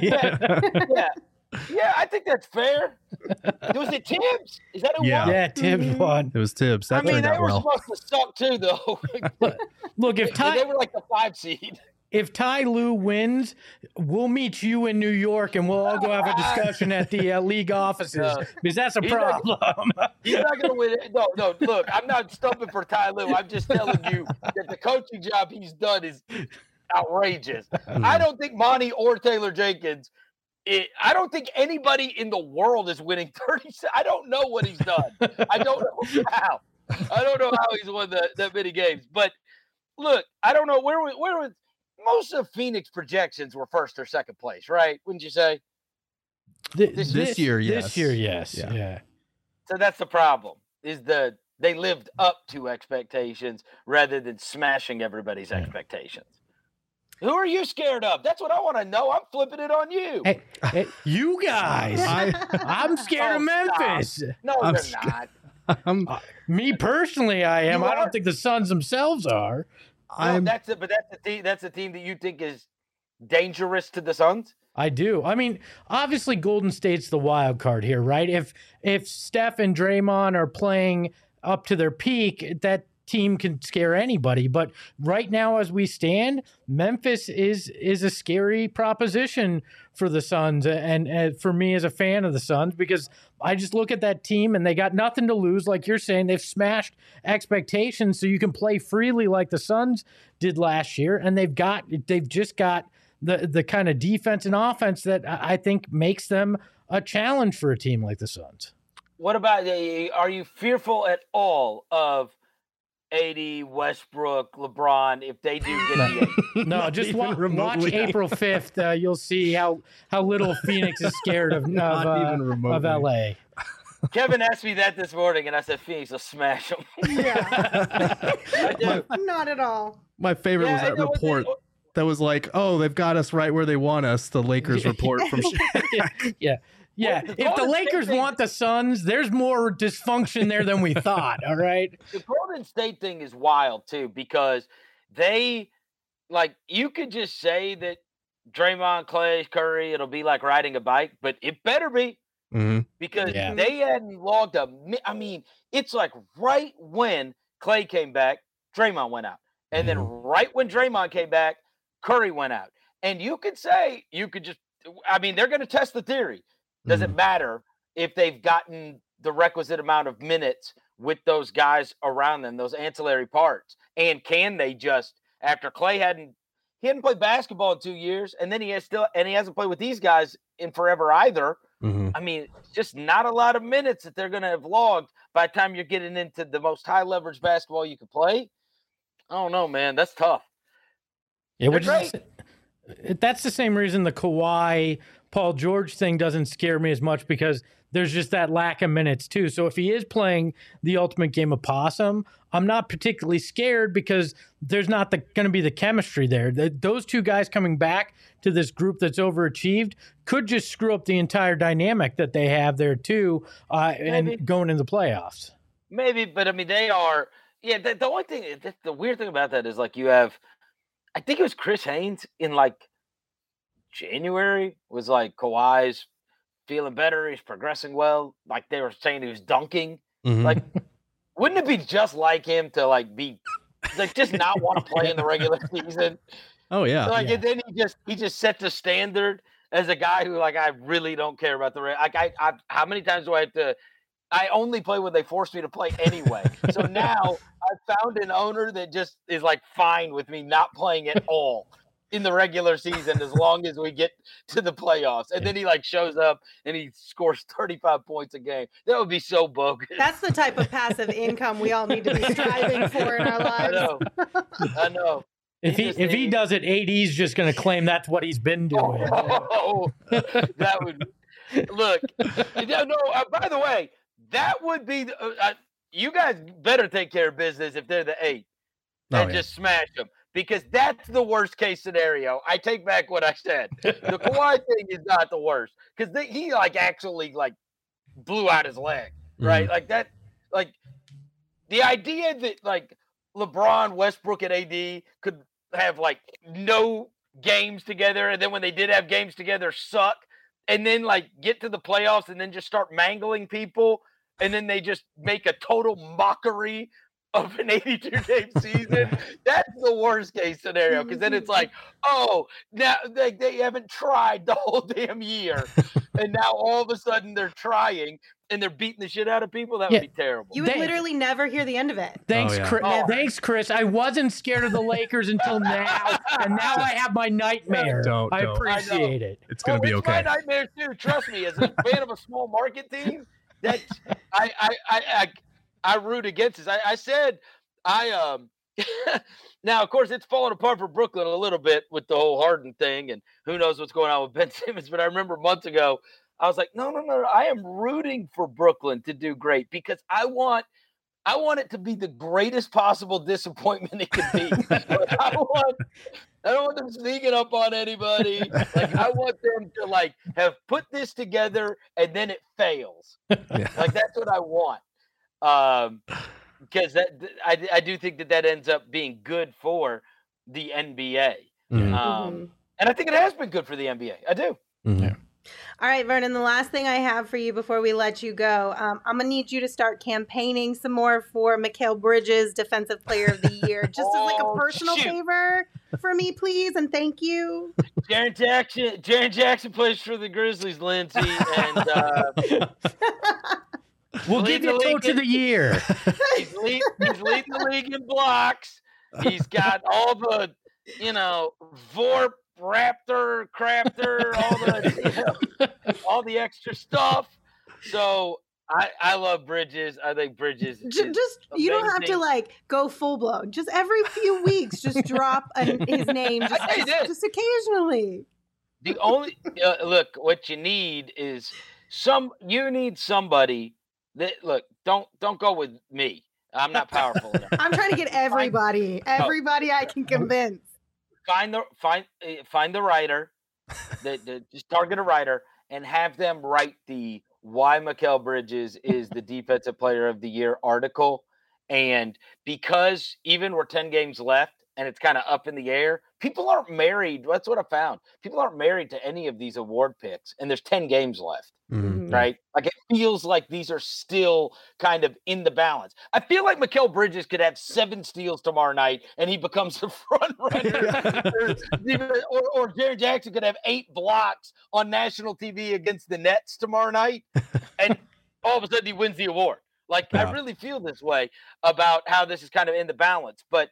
Yeah, I think that's fair. Was it Tibbs? Is that who won? Yeah, Tibbs won. It was Tibbs. That they were supposed to suck too, though. Look, if they were like the 5 seed. If Ty Lue wins, we'll meet you in New York and we'll all go have a discussion at the league offices, because that's a problem. He's not going to win it. No, look, I'm not stumping for Ty Lue. I'm just telling you that the coaching job he's done is outrageous. I don't think Monty or Taylor Jenkins, I don't think anybody in the world is winning 30. I don't know what he's done. I don't know how. I don't know how he's won that many games. But look, I don't know where was most of Phoenix projections were first or second place, right? Wouldn't you say? This year, yes. This year, yes. Yeah. So that's the problem, is they lived up to expectations rather than smashing everybody's expectations. Who are you scared of? That's what I want to know. I'm flipping it on you. Hey, you guys. I'm scared of Memphis. Stop. No, they're not. Me personally, I am. I don't think the Suns themselves are. That's it. But that's the team that you think is dangerous to the Suns? I do. I mean, obviously Golden State's the wild card here, right? If Steph and Draymond are playing up to their peak, that team can scare anybody. But right now, as we stand, Memphis is a scary proposition for the Suns, and for me as a fan of the Suns, because I just look at that team and they got nothing to lose. Like you're saying, they've smashed expectations, so you can play freely like the Suns did last year, and they've just got the kind of defense and offense that I think makes them a challenge for a team like the Suns. What about, are you fearful at all of AD, Westbrook, LeBron if they do get the 8? No, just watch April 5th. You'll see how little Phoenix is scared of LA. Kevin asked me that this morning, and I said Phoenix will smash them. Yeah. Not at all. My favorite was that report that was like, oh, they've got us right where they want us, the Lakers report from Yeah. Well, if the Lakers want the Suns, there's more dysfunction there than we thought, all right? The Golden State thing is wild, too, because they, you could just say that Draymond, Clay, Curry, it'll be like riding a bike, but it better be. Mm-hmm. Because they hadn't logged it's like right when Clay came back, Draymond went out. And then right when Draymond came back, Curry went out. And they're going to test the theory. Doesn't matter if they've gotten the requisite amount of minutes with those guys around them, those ancillary parts. And can they just, after Clay hadn't played basketball in 2 years, and then he hasn't played with these guys in forever either. Just not a lot of minutes that they're going to have logged by the time you're getting into the most high leverage basketball you could play. I don't know, man. That's tough. Yeah, that's the same reason the Kawhi Paul George thing doesn't scare me as much, because there's just that lack of minutes too. So if he is playing the ultimate game of possum, I'm not particularly scared because there's not going to be the chemistry there. Those two guys coming back to this group that's overachieved could just screw up the entire dynamic that they have there too, and going into the playoffs. Maybe, but they are. Yeah, the only thing, the weird thing about that is you have, I think it was Chris Haynes in January was Kawhi's feeling better. He's progressing well. They were saying he was dunking. Mm-hmm. Wouldn't it be just like him to be just not want to play in the regular season? Oh yeah. And then he just set the standard as a guy who I really don't care about the how many times do I have to? I only play when they force me to play anyway. So now I found an owner that just is fine with me not playing at all in the regular season as long as we get to the playoffs. And then he shows up and he scores 35 points a game. That would be so bogus. That's the type of passive income we all need to be striving for in our lives. I know. If he does it, AD's just going to claim that's what he's been doing. That would look. By the way, that would be you guys better take care of business if they're the 8 and just smash them. Because that's the worst case scenario. I take back what I said. The Kawhi thing is not the worst, because he actually blew out his leg, right? The idea that LeBron, Westbrook, and AD could have no games together, and then when they did have games together, suck, and then get to the playoffs and then just start mangling people, and then they just make a total mockery of an 82-game season. That's the worst case scenario, because then it's now they haven't tried the whole damn year, and now all of a sudden they're trying and they're beating the shit out of people. That would be terrible. You would literally never hear the end of it. Thanks, Chris. Thanks, Chris. I wasn't scared of the Lakers until now, and now I have my nightmare. I appreciate it. It's gonna be okay. My nightmare too. Trust me, as a fan of a small market team, that's I root against this. I said now, of course, it's falling apart for Brooklyn a little bit with the whole Harden thing, and who knows what's going on with Ben Simmons. But I remember months ago, I was like, no. I am rooting for Brooklyn to do great, because I want it to be the greatest possible disappointment it could be. I don't want them sneaking up on anybody. I want them to have put this together and then it fails. Yeah. That's what I want. Because I do think that ends up being good for the NBA. And I think it has been good for the NBA. I do. Mm-hmm. Yeah. All right, Vernon, the last thing I have for you before we let you go, I'm going to need you to start campaigning some more for Mikal Bridges, Defensive Player of the Year, just as like a personal favor for me, please, and thank you. Jaren Jackson plays for the Grizzlies, Lindsay, and we'll give you Coach of the Year. He's leading the league in blocks. He's got all the, Vorp, Raptor, Crafter, all the extra stuff. So I love Bridges. I think Bridges just you don't have to like go full blown. Just every few weeks, just drop his name. Just occasionally. The only look, what you need is somebody that don't go with me. I'm not powerful enough. I'm trying to get everybody I can convince. Find the writer, just target a writer and have them write the why Mikal Bridges is the Defensive Player of the Year article. And because even we're 10 games left and it's kind of up in the air, people aren't married. That's what I found. People aren't married to any of these award picks, and there's 10 games left. Mm-hmm. Right? Like it feels like these are still kind of in the balance. I feel like Mikal Bridges could have 7 steals tomorrow night and he becomes the front runner. or Jaren Jackson could have 8 blocks on national TV against the Nets tomorrow night. And all of a sudden he wins the award. Like I really feel this way about how this is kind of in the balance. But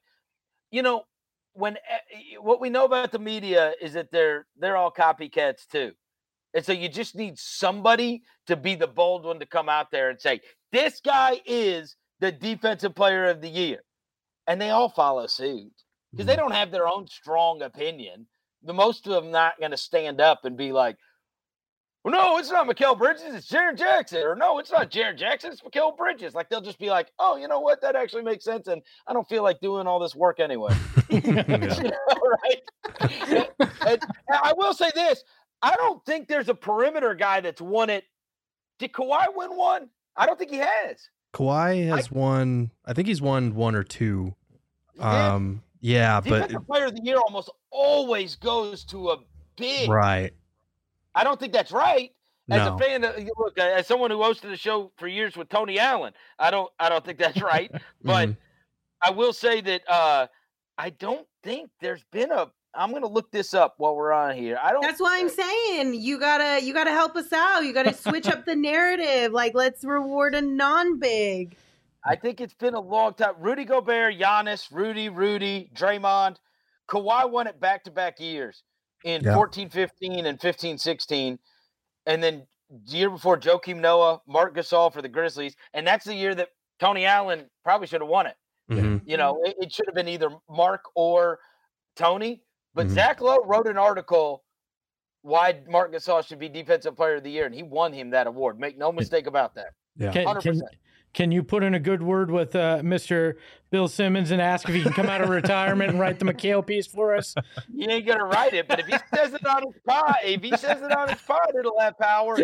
what we know about the media is that they're all copycats too. And so you just need somebody to be the bold one to come out there and say, this guy is the Defensive Player of the Year. And they all follow suit because they don't have their own strong opinion. The most of them not going to stand up and be like, well, no, it's not Mikal Bridges, it's Jaren Jackson. Or no, it's not Jaren Jackson, it's Mikal Bridges. Like they'll just be like, oh, you know what? That actually makes sense. And I don't feel like doing all this work anyway. Right? And I will say this. I don't think there's a perimeter guy that's won it. Did Kawhi win one? I don't think he has. Kawhi has won. I think he's won 1 or 2. Yeah, Defensive Player of the Year almost always goes to a big. Right. I don't think that's right. As a fan, look, as someone who hosted a show for years with Tony Allen, I don't think that's right. But I will say that I don't think there's been a. I'm gonna look this up while we're on here. That's why I'm saying you gotta help us out. You gotta switch up the narrative. Like let's reward a non-big. I think it's been a long time. Rudy Gobert, Giannis, Rudy, Draymond, Kawhi won it back-to-back years in 14-15 and 15-16, and then the year before Joakim Noah, Marc Gasol for the Grizzlies, and that's the year that Tony Allen probably should have won it. Mm-hmm. It should have been either Mark or Tony. But Zach Lowe wrote an article why Marc Gasol should be Defensive Player of the Year, and he won him that award. Make no mistake about that. Yeah. 100%. Can you put in a good word with Mr. Bill Simmons and ask if he can come out of retirement and write the Mikal piece for us? He ain't gonna write it, but if he says it on his pod, it'll have power.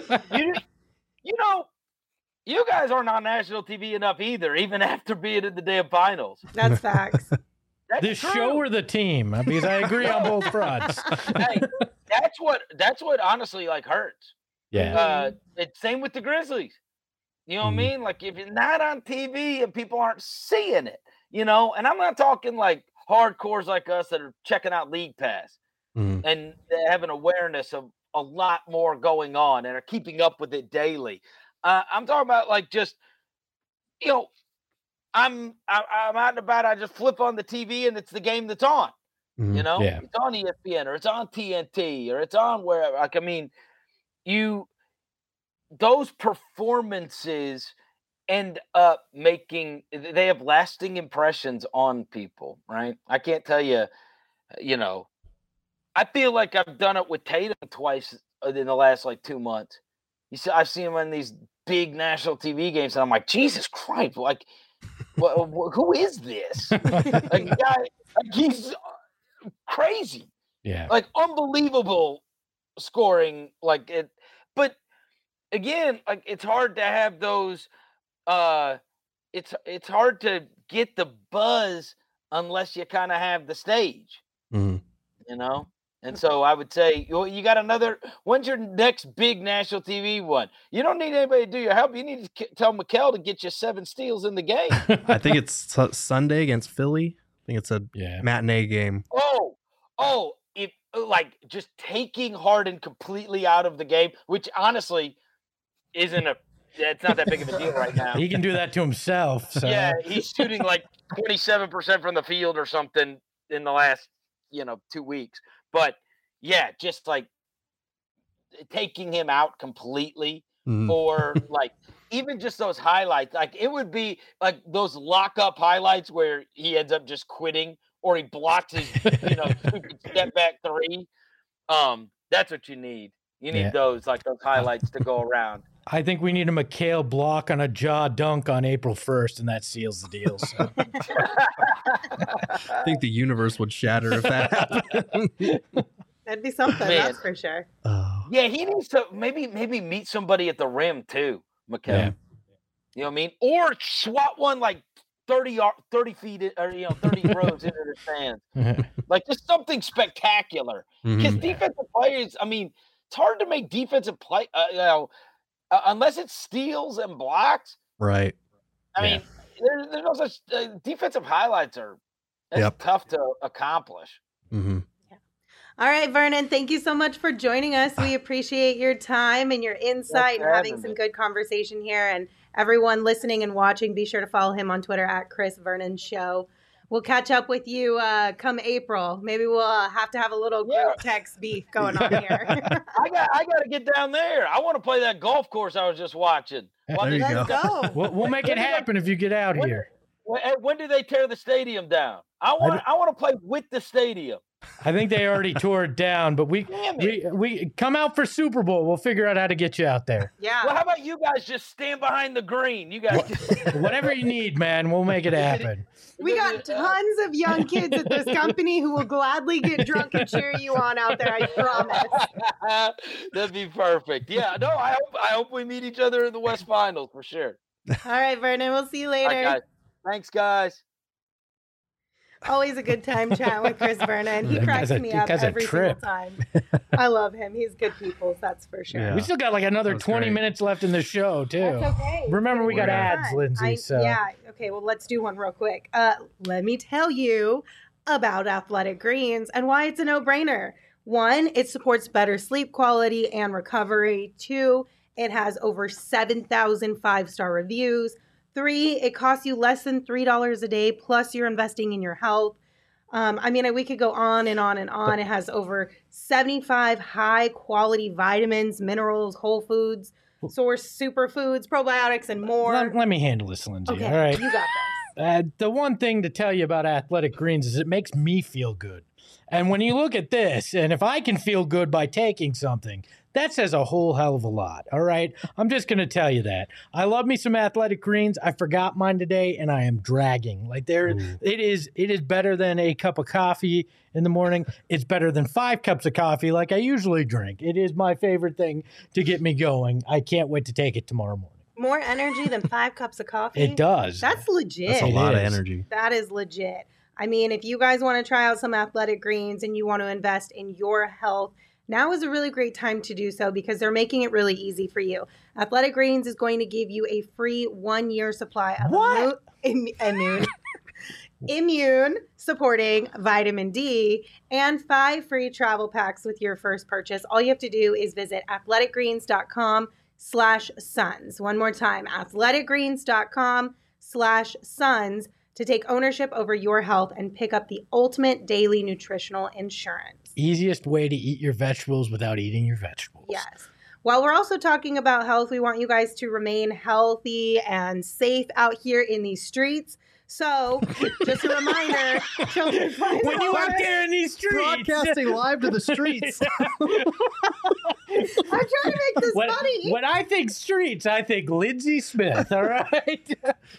You guys aren't on national TV enough either, even after being in the damn finals. That's facts. The show or the team? Because I agree on both fronts. Hey, that's what honestly like hurts. Yeah. It's same with the Grizzlies. You know what I mean? Like if you're not on TV and people aren't seeing it, and I'm not talking like hardcores like us that are checking out League Pass and have an awareness of a lot more going on and are keeping up with it daily. I'm talking about like just, I'm out and about. I just flip on the TV and it's the game that's on. It's on ESPN or it's on TNT or it's on wherever. Like, I mean, those performances end up they have lasting impressions on people, right? I can't tell you, I feel like I've done it with Tatum twice in the last 2 months. I've seen him in these big national TV games and I'm like, Jesus Christ, like, who is this? He's crazy. Yeah. Like unbelievable scoring. Like it, but again, like it's hard to have those. It's hard to get the buzz unless you kind of have the stage. And And so I would say, you got another. When's your next big national TV one? You don't need anybody to do your help. You need to tell Mikal to get you 7 steals in the game. I think it's Sunday against Philly. I think it's a matinee game. If like just taking Harden completely out of the game, which honestly isn't it's not that big of a deal right now. He can do that to himself. So. Yeah, he's shooting like 27% from the field or something in the last 2 weeks. But yeah, just like taking him out completely, or like even just those highlights. Like it would be like those lock-up highlights where he ends up just quitting, or he blocks his stupid step back 3. That's what you need. You need those highlights to go around. I think we need a Mikal block on a jaw dunk on April 1st, and that seals the deal. So. I think the universe would shatter if that happened. That'd be something, that's for sure. Yeah, he needs to maybe meet somebody at the rim too, Mikal. Yeah. You know what I mean? Or swat one like 30 feet or 30 rows into the stands. Like just something spectacular. Because defensive players, I mean, it's hard to make defensive play unless it's steals and blocks. Right. I mean, there's no such defensive highlights are tough to accomplish. Mm-hmm. All right, Vernon, thank you so much for joining us. We appreciate your time and your insight and having some good conversation here. And everyone listening and watching, be sure to follow him on Twitter at Chris Vernon Show. We'll catch up with you come April. Maybe we'll have to have a little group text beef going on here. I got to get down there. I want to play that golf course I was just watching. Let's go. We'll make it happen if you get out here. When do they tear the stadium down? I want to play with the stadium. I think they already tore it down, but we come out for Super Bowl. We'll figure out how to get you out there. Yeah. Well, how about you guys just stand behind the green? You guys, whatever you need, man. We'll make it happen. We got tons of young kids at this company who will gladly get drunk and cheer you on out there. I promise. That'd be perfect. Yeah. No, I hope we meet each other in the West Finals for sure. All right, Vernon. We'll see you later. All right, guys. Thanks, guys. Always a good time chatting with Chris Vernon. He cracks me up every single time. I love him. He's good people, that's for sure. Yeah. We still got like another 20 minutes left in the show, too. That's okay. Remember, we got ads, Lindsay. Yeah. Okay, well, let's do one real quick. Let me tell you about Athletic Greens and why it's a no-brainer. 1, it supports better sleep quality and recovery. 2, it has over 7,000 5-star reviews. 3, it costs you less than $3 a day, plus you're investing in your health. I mean, we could go on and on and on. It has over 75 high-quality vitamins, minerals, whole foods, source superfoods, probiotics, and more. Let me handle this, Lindsay. Okay, all right. You got this. The one thing to tell you about Athletic Greens is it makes me feel good. And when you look at this, and if I can feel good by taking something, that says a whole hell of a lot, all right? I'm just going to tell you that. I love me some Athletic Greens. I forgot mine today, and I am dragging. Like it is better than a cup of coffee in the morning. It's better than 5 cups of coffee like I usually drink. It is my favorite thing to get me going. I can't wait to take it tomorrow morning. More energy than 5 cups of coffee? It does. That's legit. That's a lot of energy. That is legit. I mean, if you guys want to try out some Athletic Greens and you want to invest in your health, now is a really great time to do so because they're making it really easy for you. Athletic Greens is going to give you a free 1-year supply of immune supporting vitamin D and 5 free travel packs with your first purchase. All you have to do is visit athleticgreens.com/suns. One more time, athleticgreens.com/suns to take ownership over your health and pick up the ultimate daily nutritional insurance. Easiest way to eat your vegetables without eating your vegetables. Yes. While we're also talking about health, we want you guys to remain healthy and safe out here in these streets. So, just a reminder, children fly when you out there in these streets. Broadcasting live to the streets. I'm trying to make this funny. When I think streets, I think Lindsay Smith, all right?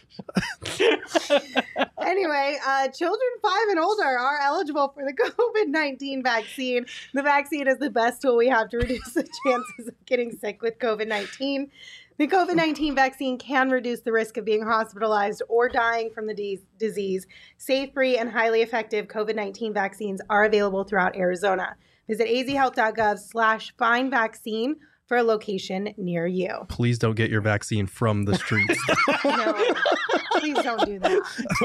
Anyway, children 5 and older are eligible for the COVID-19 vaccine. The vaccine is the best tool we have to reduce the chances of getting sick with COVID-19. The COVID-19 vaccine can reduce the risk of being hospitalized or dying from the disease. Safe, free, and highly effective COVID-19 vaccines are available throughout Arizona. Visit azhealth.gov/find vaccine for a location near you. Please don't get your vaccine from the streets. No, please don't do that.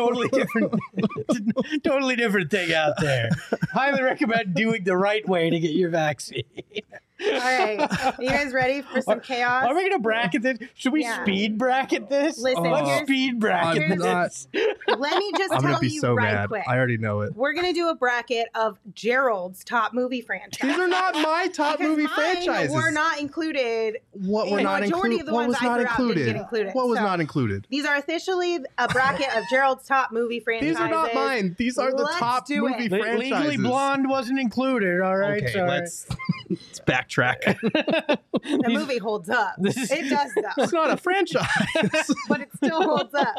Totally different thing out there. Highly recommend doing the right way to get your vaccine. All right. Are you guys ready for some chaos? Are we going to bracket this? Should we speed bracket this? Listen, Let's speed bracket I'm not- this. Let me just I'm tell gonna be you so right mad. quick. I already know it. We're going to do a bracket of Gerald's top movie franchises. These are not my top Because movie mine franchises. were not included. What were The not majority included? of the What ones was I not threw out didn't included? get included. What was So, not included? These are officially a bracket of Gerald's top movie franchises. These are not mine. These are the Let's top do movie it. franchises. Legally Blonde wasn't included, all right? Okay, sorry. let's backtrack. The movie holds up. It does, though. It's not a franchise. But it still holds up.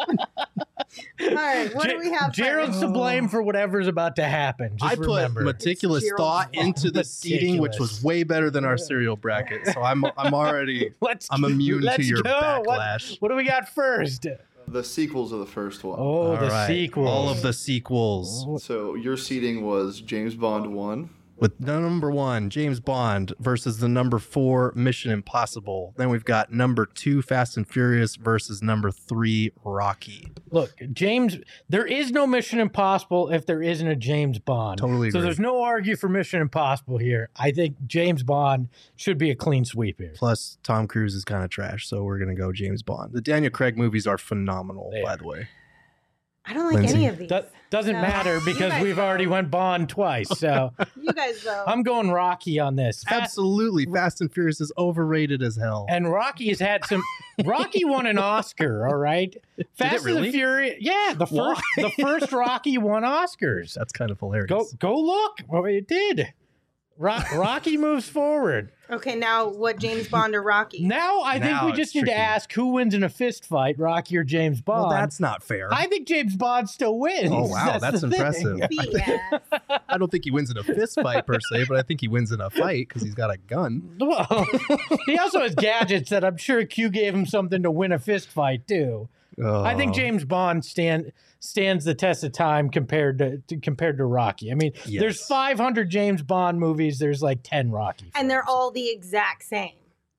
All right, what do we have Gerald's first? to blame for whatever's about to happen. Just I put remember. meticulous It's Gerald's thought fault. into the seating, which was way better than our cereal bracket. So I'm already I'm immune to your backlash. What do we got first? The sequels of the first one. Oh, All the right. sequel. All of the sequels. So your seeding was James Bond 1. With the number 1, James Bond versus the number 4, Mission Impossible. Then we've got number 2, Fast and Furious versus number 3, Rocky. Look, James, there is no Mission Impossible if there isn't a James Bond. Totally So agree. there's no argue for Mission Impossible here. I think James Bond should be a clean sweep here. Plus, Tom Cruise is kind of trash, so we're going to go James Bond. The Daniel Craig movies are phenomenal, They by are. the way. I don't like Lindsay. any of these. Doesn't No. matter You because guys we've know. already went Bond twice. So You guys, though. I'm going Rocky on this. Absolutely. Fast and Furious is overrated as hell. And Rocky has had some. Rocky won an Oscar, all right. Fast and really? the Furious. Yeah, the first Rocky won Oscars. That's kind of hilarious. Go look. Well, it did. Rocky moves forward. Okay, now what, James Bond or Rocky? Now I think Now we it's just need to tricky. ask who wins in a fist fight, Rocky or James Bond. Well, that's not fair. I think James Bond still wins. Oh, wow, that's the thing. impressive. BS. I don't think he wins in a fist fight per se, but I think he wins in a fight because he's got a gun. Well, he also has gadgets that I'm sure Q gave him something to win a fist fight too. I think Oh. James Bond stands the test of time compared to Rocky. I mean, Yes. there's 500 James Bond movies. There's like 10 Rocky. And they're films. all the exact same.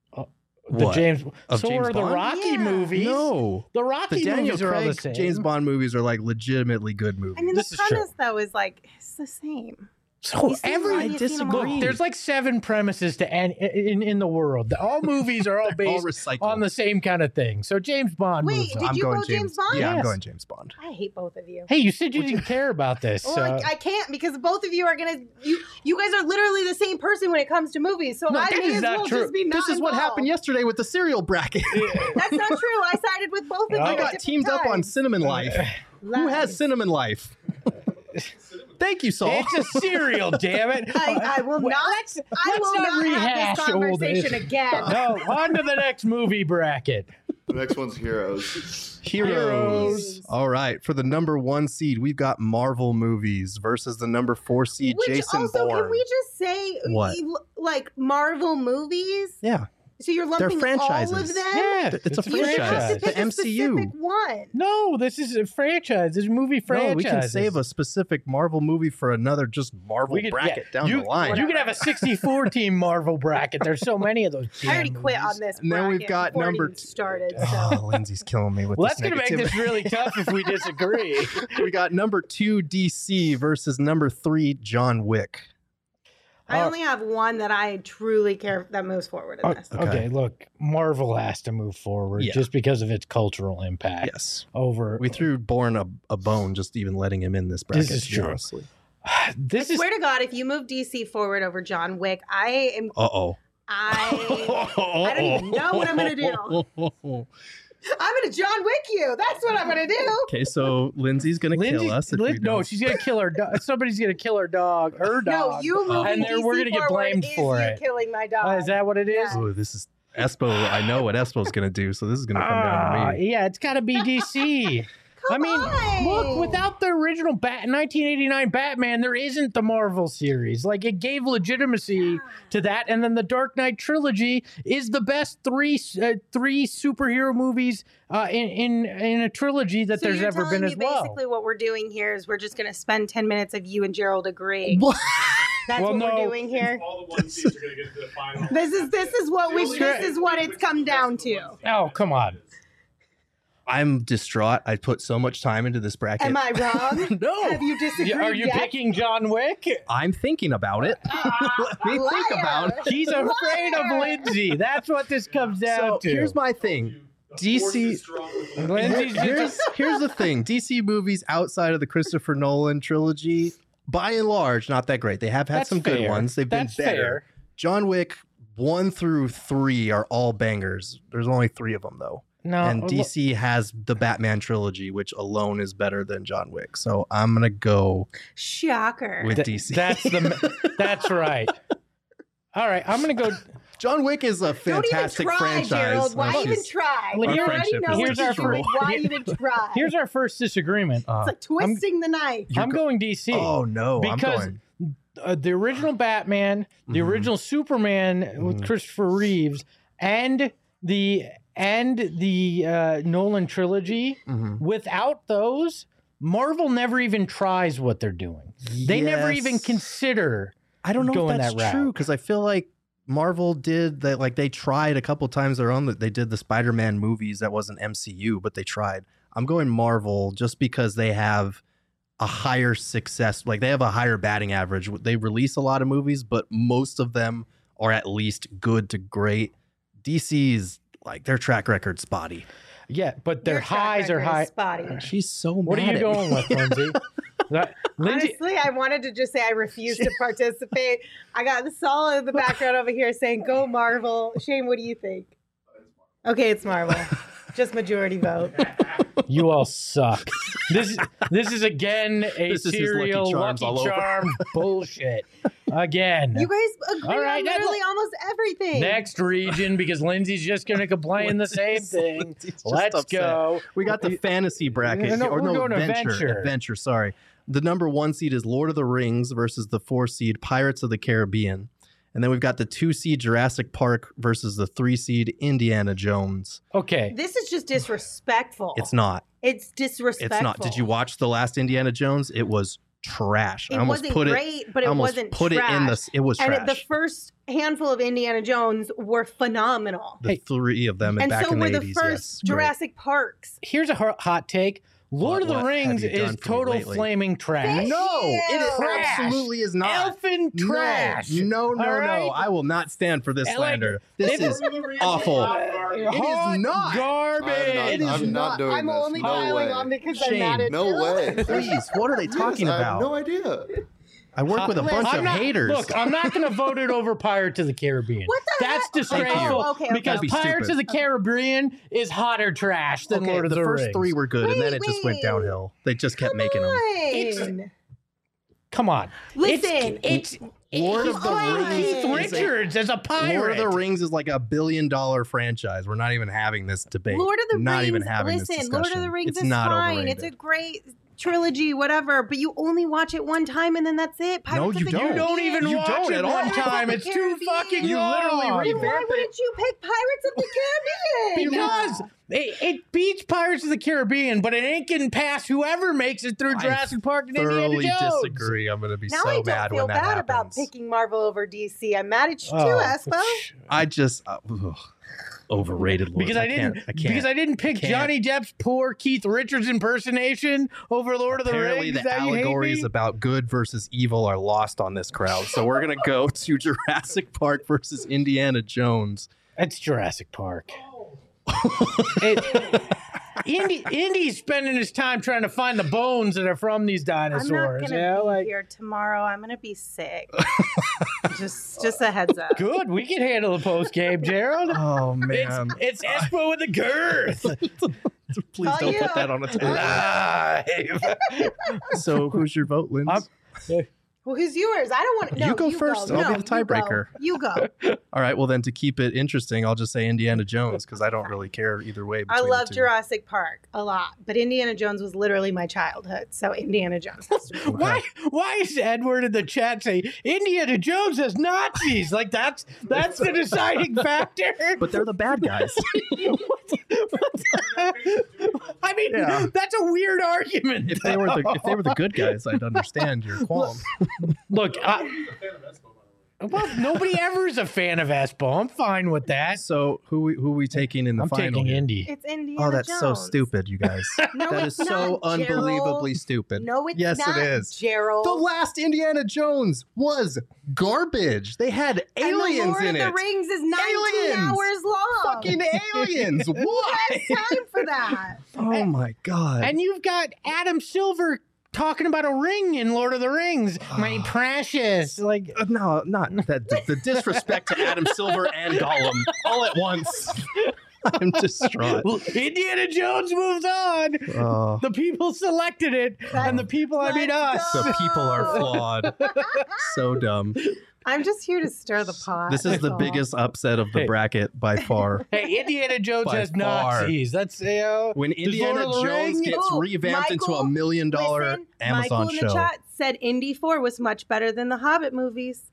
the What? James. Of so James are the Bond? Rocky Yeah. movies. No. The Rocky The Daniel movies are all the Craig same. James Bond movies are like legitimately good movies. I mean, This the is true. premise, though, is like, it's the same. So You see every one, you've seen them all. look, there's like 7 premises to in the world. All movies are all They're all based recycled. on the same kind of thing. So James Bond Wait, moves on. did I'm you going go James Bond? Yeah, I'm Yes. going James Bond. I hate both of you. Hey, you said you didn't care about this. Well, So. I can't because both of you are gonna. You guys are literally the same person when it comes to movies. So No, I that may is as not well true. just be not This is what involved. happened yesterday with the cereal bracket. That's not true. I sided with both of you. I I at got different teamed up on times. Cinnamon Life. Who has Lies. Cinnamon Life? Thank you, Saul. It's a cereal, damn it. I will Well, not. let's I will not not rehash have this old conversation again. No, on to the next movie bracket. The next one's Heroes. Heroes. All right. For the number 1 seed, we've got Marvel movies versus the number 4 seed, Which Jason also, Bourne. can we just say, What? like Marvel movies? Yeah. So you're lumping all of franchises. them? Yeah, It's a You have franchise. to The pick a MCU. specific one. No, this is a franchise. This is a movie franchise. No, we can save a specific Marvel movie for another just Marvel bracket down the line. You can have a 64 team Marvel bracket. There's so many of those. I already damn quit movies. on this. And then we've bracket got before it number even t- started. So. Oh, Lindsay's killing me with Well, this that's going to make this really tough if we disagree. We got number 2 DC versus number 3 John Wick. I only have one that I truly care that moves forward in this. Okay, look, Marvel has to move forward Yeah. just because of its cultural impact. Yes. Over We threw Bourne a bone just even letting him in this bracket. is true. honestly. this I is swear to God, if you move DC forward over John Wick, I Uh-oh. don't even know what I'm gonna do. I'm gonna John Wick you. That's what I'm gonna do. Okay, so Lindsay's going to kill us if we no, don't. she's gonna kill her dog. Somebody's gonna kill her dog. Her No, dog. you moving and then DC we're gonna get forward blamed is for you it. killing my dog. Is that what it is? Yeah. Oh, this is Espo. I know what Espo's going to do, so this is going to come down to me. Yeah, it's got to be DC. I mean, on. look, without the original 1989 Batman, there isn't the Marvel series. Like, it gave legitimacy to that. And then the Dark Knight trilogy is the best three superhero movies in a trilogy that So there's you're ever telling been me as well. Basically, what we're doing here is we're just going to spend 10 minutes of you and Gerald agreeing. That's Well, what no. we're doing here. All the one seeds are going to get to the final. This is what it's come down to. Oh, come on. I'm distraught. I put so much time into this bracket. Am I wrong? No. Have you disagreed Are you yet? picking John Wick? I'm thinking about it. Let me think Liar. about it. He's afraid of Lindsay. That's what this comes down So to. here's my thing. DC. Lindsay's just Here's the thing. DC movies outside of the Christopher Nolan trilogy, by and large, not that great. They have had That's some good fair. ones. They've been That's better. fair. John Wick 1 through 3 are all bangers. There's only 3 of them though. no. And DC has the Batman trilogy, which alone is better than John Wick. So I'm gonna go Shocker. with DC. That's right. All right, I'm gonna go. John Wick is a Don't even fantastic try, franchise. Gerald. Why No, even she's- try? Well, You here- already know here's what our you're doing. first- Why even try? Here's our first disagreement. Uh, It's like twisting the knife. I'm going DC. oh no, because I'm going. The original Batman, the Mhm. original Superman with Mhm. Christopher Reeves, and the Nolan trilogy. Mhm. Without those, Marvel never even tries what they're doing. They never even Yes. consider. I don't know going if that's that route. true because I feel like Marvel did that. Like they tried a couple times their own. They did the Spider-Man movies that wasn't MCU, but they tried. I'm going Marvel just because they have a higher success. Like they have a higher batting average. They release a lot of movies, but most of them are at least good to great. DC's like their track record spotty. Yeah, but their Your track highs are record is high. Spotty. She's so What are mad you at going me. with, Lindsay? Lindsay, Honestly, I wanted to just say I refuse to participate. I got Saul in the background over here saying, "Go Marvel." Shane, what do you think? Okay, it's Marvel. Just majority vote. you all suck. This is again a This is his Lucky serial Charms all over. Charm bullshit. Again. You guys agree All right, on now literally almost everything. Next region, because Lindsay's just going to complain the same thing. Lindsay's just Let's upset. go. We got the fantasy bracket. No, we're going to Adventure. Adventure, sorry. The number 1 seed is Lord of the Rings versus the 4 seed Pirates of the Caribbean. And then we've got the 2 seed Jurassic Park versus the 3 seed Indiana Jones. Okay. This is just disrespectful. It's not. It's disrespectful. It's not. Did you watch the last Indiana Jones? It was trash. It I almost wasn't put great, but I it almost wasn't put trash. it in the. It was And trash. the first handful of Indiana Jones were phenomenal. the 3 of them, And back so in the were 80s. the first yes, great. Jurassic Parks. Here's a hot take. Lord of the What have Rings you done is for me total lately? flaming trash. No, it Trash. absolutely is not. Elfin trash. No, All right? no. I will not stand for this Like, slander. This this is awful. It is not. Garbage. It is I'm not. not doing I'm this. only no piling way. on because Shame. I'm mad at No you. way. Please, what are they talking I have about? no idea. I work with a bunch I'm of not- haters. Look, I'm not going to vote it over Pirates of the Caribbean. What the That's heck? disgraceful. Oh, okay, okay. Because That'd be Pirates stupid. of the Caribbean is hotter trash than Okay, Lord of the, the first Rings. 3 were good, and then Wait, it just went wait. downhill. They just kept Come making them. on. Come on. Listen. It's Lord he's of the playing Rings Keith is a- Richards as a pirate. Lord of the Rings is like $1 billion franchise. We're not even having this debate. Lord of the not Rings. even having Listen, this Lord discussion. of the Rings it's is not fine. overrated. It's a great trilogy, whatever. But you only watch it one time, and then that's it. No, Pirates you of the don't. You don't Caribbean. even You watch don't it at all. one Pirates of time. the It's too Caribbean. fucking You literally long. Then why wouldn't you pick Pirates of the Caribbean? Because it beats Pirates of the Caribbean, but it ain't getting past whoever makes it through I Jurassic Park and Indiana thoroughly Jones. disagree. I'm going to be Now I so don't mad feel when that bad about happens. picking Marvel over DC. I'm mad at you too, Oh, Espo. I just overrated. Lord. Because I didn't. can't. Because I didn't pick Can't. Johnny Depp's poor Keith Richards impersonation over Lord of the Apparently, Rings. the That you hate allegories me? about good versus evil are lost on this crowd. So we're gonna go to Jurassic Park versus Indiana Jones. It's Jurassic Park. Indy's spending his time trying to find the bones that are from these I'm not dinosaurs. gonna Yeah, be like here tomorrow. I'm gonna be sick. just a heads up. good. We can handle the post game, Gerald. Oh man! It's Espo with the girth. Please All don't you. put that on a tape. Live. So who's your vote, Linz? Well, who's yours? I don't want. No, You go first. I'll be No, the tiebreaker. You go. All right. Well, then to keep it interesting, I'll just say Indiana Jones because I don't really care either way. I between love the two. Jurassic Park a lot, but Indiana Jones was literally my childhood. So Indiana Jones has to be. Why is Edward in the chat saying Indiana Jones has Nazis? Like that's the deciding factor. But they're the bad guys. I mean, Yeah. that's a weird argument. if they were the good guys, I'd understand your qualm. Look, well, nobody ever is a fan of Espo. I'm fine with that. So who we taking in the I'm final? taking here? Indy. It's Indiana Oh, that's so Jones. stupid, you guys. No, That it's is so not, unbelievably Gerald. stupid. No, it's yes, not, it is. Gerald. The last Indiana Jones was garbage. They had aliens and the Lord in of it. the Rings is 19 Aliens. hours long. Fucking aliens. Who Why? has time for that? Oh my god. And you've got Adam Silver talking about a ring in Lord of the Rings. My precious. Like, No, not that. The disrespect to Adam Silver and Gollum all at once. I'm distraught. Indiana Jones moves on. Oh, The people selected it, and the people, I mean us. Let's the people are flawed. So dumb. I'm just here to stir the pot. This is that's the all. biggest upset of the Hey. bracket by far. Hey, Indiana Jones By has far. Nazis. That's When there's Indiana Lord of the Jones Rings. gets Ooh, revamped into Michael, $1 million Listen, Amazon Michael in show. the chat said Indy 4 was much better than the Hobbit movies.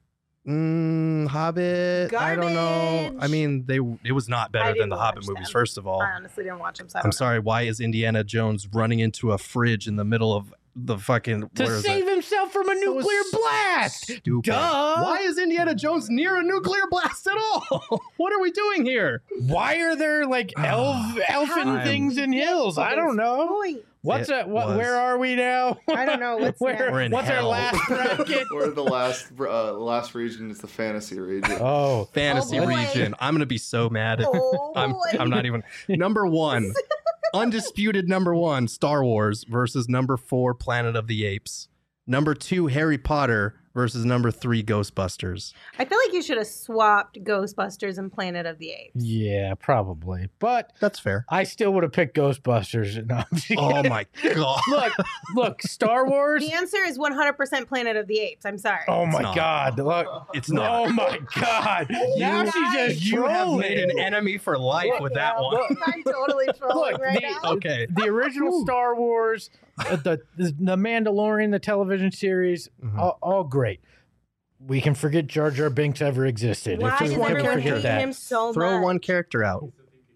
Hobbit. I don't know. I Garbage. mean, it was not I better than didn't the Hobbit watch movies. them. First of all, I honestly didn't watch them, so I I'm don't know. sorry. Why is Indiana Jones running into a fridge in the middle of the fucking To where is save it? himself from a That was nuclear blast. Stupid. Duh. Why is Indiana Jones near a nuclear blast at all? What are we doing here? Why are there like elfin I'm- things in hills? I don't know. Point. What's It that? What? was- Where are we now? I don't know. What's next? We're in What's hell. our last bracket? Or the last region is the fantasy region. Oh, Fantasy Oh, boy. region. I'm gonna be so mad. Oh, I'm boy. not even number one. Undisputed number one, Star Wars versus number 4, Planet of the Apes. Number 2, Harry Potter versus number 3, Ghostbusters. I feel like you should have swapped Ghostbusters and Planet of the Apes. yeah, probably. But That's fair. I still would have picked Ghostbusters. No, I'm just Oh kidding. my god. look, Star Wars. The answer is 100% Planet of the Apes. I'm sorry. Oh my not. God! Look, It's not. Oh my God! Now guys- she's just You have trolling. made an enemy for life with that one. I'm totally trolling Look, right the- now. Okay. The original Star Wars, the Mandalorian, the television series, Mhm. all great. We can forget Jar Jar Binks ever existed. Why If we does can everyone forget hate that. him so Throw much? one character out.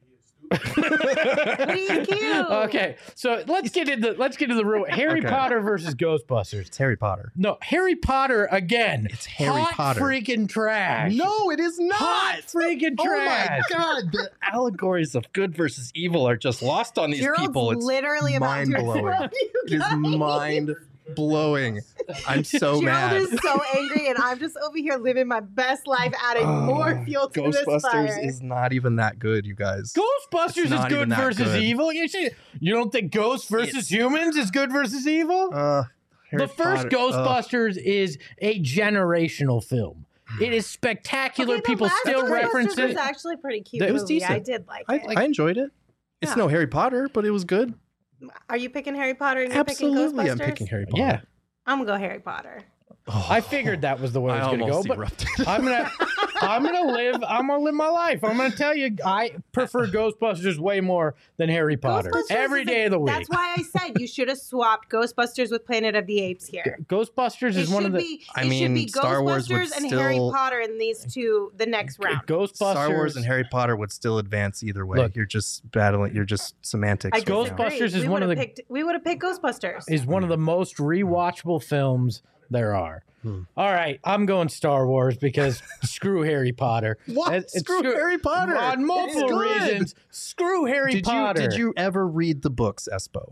But he's cute. Okay, so let's get into the real Harry Okay. Potter versus Ghostbusters. It's Harry Potter. No, Harry Potter again. It's Harry Hot Potter. freaking trash. No, it is not. Hot freaking trash. Oh my god, the allegories of good versus evil are just lost on these Gerald's people. It's literally about to mind-blowing. explode, you It is guys. mind blowing. I'm so Gerald mad. is so angry, and I'm just over here living my best life, adding more fuel to this fire. Ghostbusters is not even that good, you guys. Ghostbusters It's is not good even that versus good. evil. You don't think Ghosts versus humans is good versus evil? Harry The first Potter- Ghostbusters is a generational film. It is spectacular. Okay, the People last still Ghostbusters reference was it. actually a pretty cute That was movie. I decent. did like I, it. I enjoyed it. It's Yeah. no Harry Potter, but it was good. Are you picking Harry Potter and you're Absolutely, picking Ghostbusters? I'm picking Harry Potter. Yeah, I'm gonna go Harry Potter. Oh, I figured that was the way I it was going to go. almost But erupted. I'm gonna live my life. I'm gonna tell you, I prefer Ghostbusters way more than Harry Potter Ghostbusters every is day of the week. That's why I said you should have swapped Ghostbusters with Planet of the Apes here. Ghostbusters It is one should of the be. I It should mean, be Star Wars would Ghostbusters and Harry still- Potter in these two the next round. Ghostbusters. Star Wars and Harry Potter would still advance either way. Look. You're just battling. You're just semantics. I right now. disagree. Ghostbusters is we one of would've the- picked, we would have picked Ghostbusters. is one of the most rewatchable films there are. All right, I'm going Star Wars because screw Harry Potter. What? It's Screw Harry Potter. On multiple It's good. reasons. Screw Harry Potter. Did you ever read the books, Espo?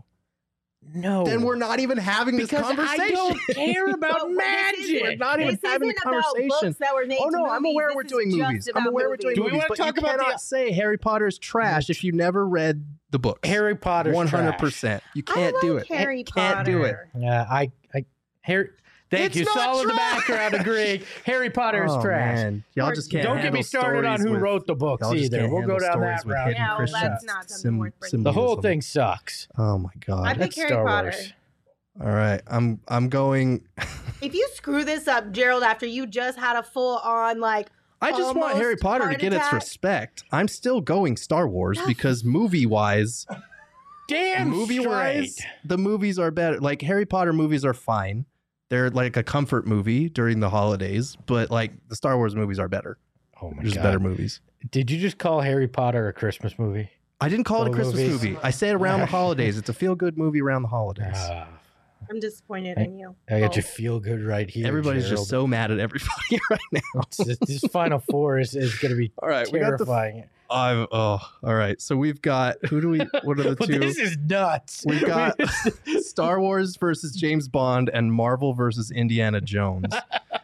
No. Then we're not even having this because conversation. I don't care about But this magic. isn't- We're not even this having the isn't about conversation. books that were made Oh no, to I'm movies. aware This we're is doing just movies. I'm about aware we're doing Do we movies, wanna but talk you about the- cannot say Harry Potter's trash if you never read the books. Harry Potter's 100%. You can't I do like it. Harry Can't do it. Potter. Yeah, I Harry. Thank It's you. not Saul in the trash. background agreeing. Harry Potter is Oh, trash. man. Y'all just can't Don't get me handle started on stories who with- wrote the books y'all just either. can't We'll go handle down stories that with route. hidden Yeah, well, Christian that's not something worth bringing The whole symbolism. thing sucks. Oh my god. I pick That's Harry Star Potter. Wars. All right, I'm going. If you screw this up, Gerald, after you just had a full on like, I just want Harry almost Potter to heart get its attack. respect. I'm still going Star Wars because movie wise, Damn movie-wise, straight. the movies are better. Like Harry Potter movies are fine. They're like a comfort movie during the holidays, but like the Star Wars movies are better. Oh my They're just god. better movies. Did you just call Harry Potter a Christmas movie? I didn't call it a Oh, Christmas movies. movie. I say it around the holidays. It's a feel-good movie around the holidays. I'm disappointed in you. I got Oh. you feel good right here. Everybody's Gerald. just so mad at everybody right now. This Final Four is going to be All right, we got the. terrifying. All right. So we've got what are the Well, two? this is nuts. We've got Star Wars versus James Bond and Marvel versus Indiana Jones.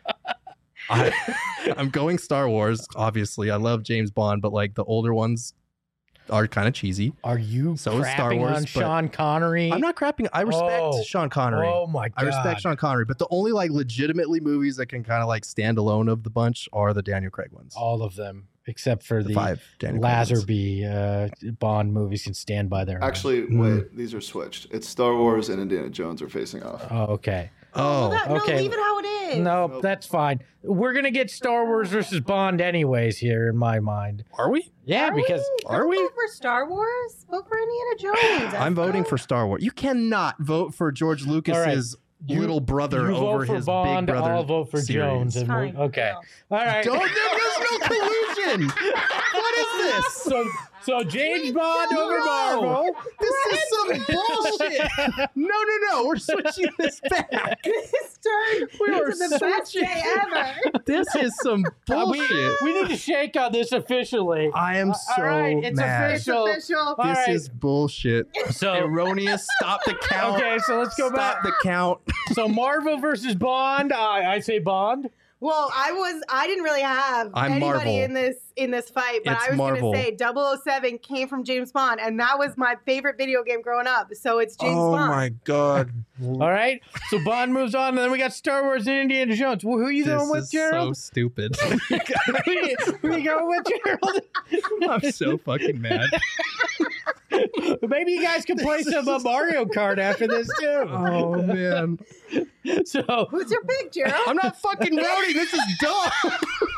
I'm going Star Wars, obviously. I love James Bond, but like the older ones are kind of cheesy. Are you So is crapping Star Wars, on but- Sean Connery? I'm not crapping. I respect Oh. Sean Connery. Oh my god! I respect Sean Connery, but the only like legitimately movies that can kind of like stand alone of the bunch are the Daniel Craig ones. All of them except for The the 5 Daniel Craig ones. Lazenby Bond movies can stand by their own. Actually, wait, these are switched. It's Star Wars and Indiana Jones are facing off. Oh, okay. Oh, No, okay. leave it how it is. No, Nope. that's fine. We're gonna get Star Wars versus Bond anyways here in my mind. are we? Yeah, because Are Don't we? vote for Star Wars? Vote for Indiana Jones. I'm voting Esther. for Star Wars. You cannot vote for George Lucas's You- little brother you over vote for his Bond, big brother. I'll vote for series. Jones. And Fine. okay, No. all right. There's no collusion. What is this? So James Bond over No. Marvel. This is some bullshit. No. We're switching this back. This turned We are into the best switching. day ever. This is some bullshit. We need to shake on this officially. I am All so right, it's mad. It's official. official. All This right. is bullshit. So Erroneous. Stop the count. okay, so let's go Stop back. the count. So Marvel versus Bond. I say Bond. Well, I didn't really have I'm anybody Marvel. in this fight, but It's I was Marvel. going to say 007 came from James Bond, and that was my favorite video game growing up. So it's James Bond. god. All right. So Bond moves on, and then we got Star Wars and Indiana Jones. Well, who are you This going with, is Gerald? so stupid. Who are you going with, Gerald? I'm so fucking mad. Maybe you guys can play some Mario Kart after this too. Oh man. So Who's your pick, Gerald? I'm not fucking voting. This is dumb.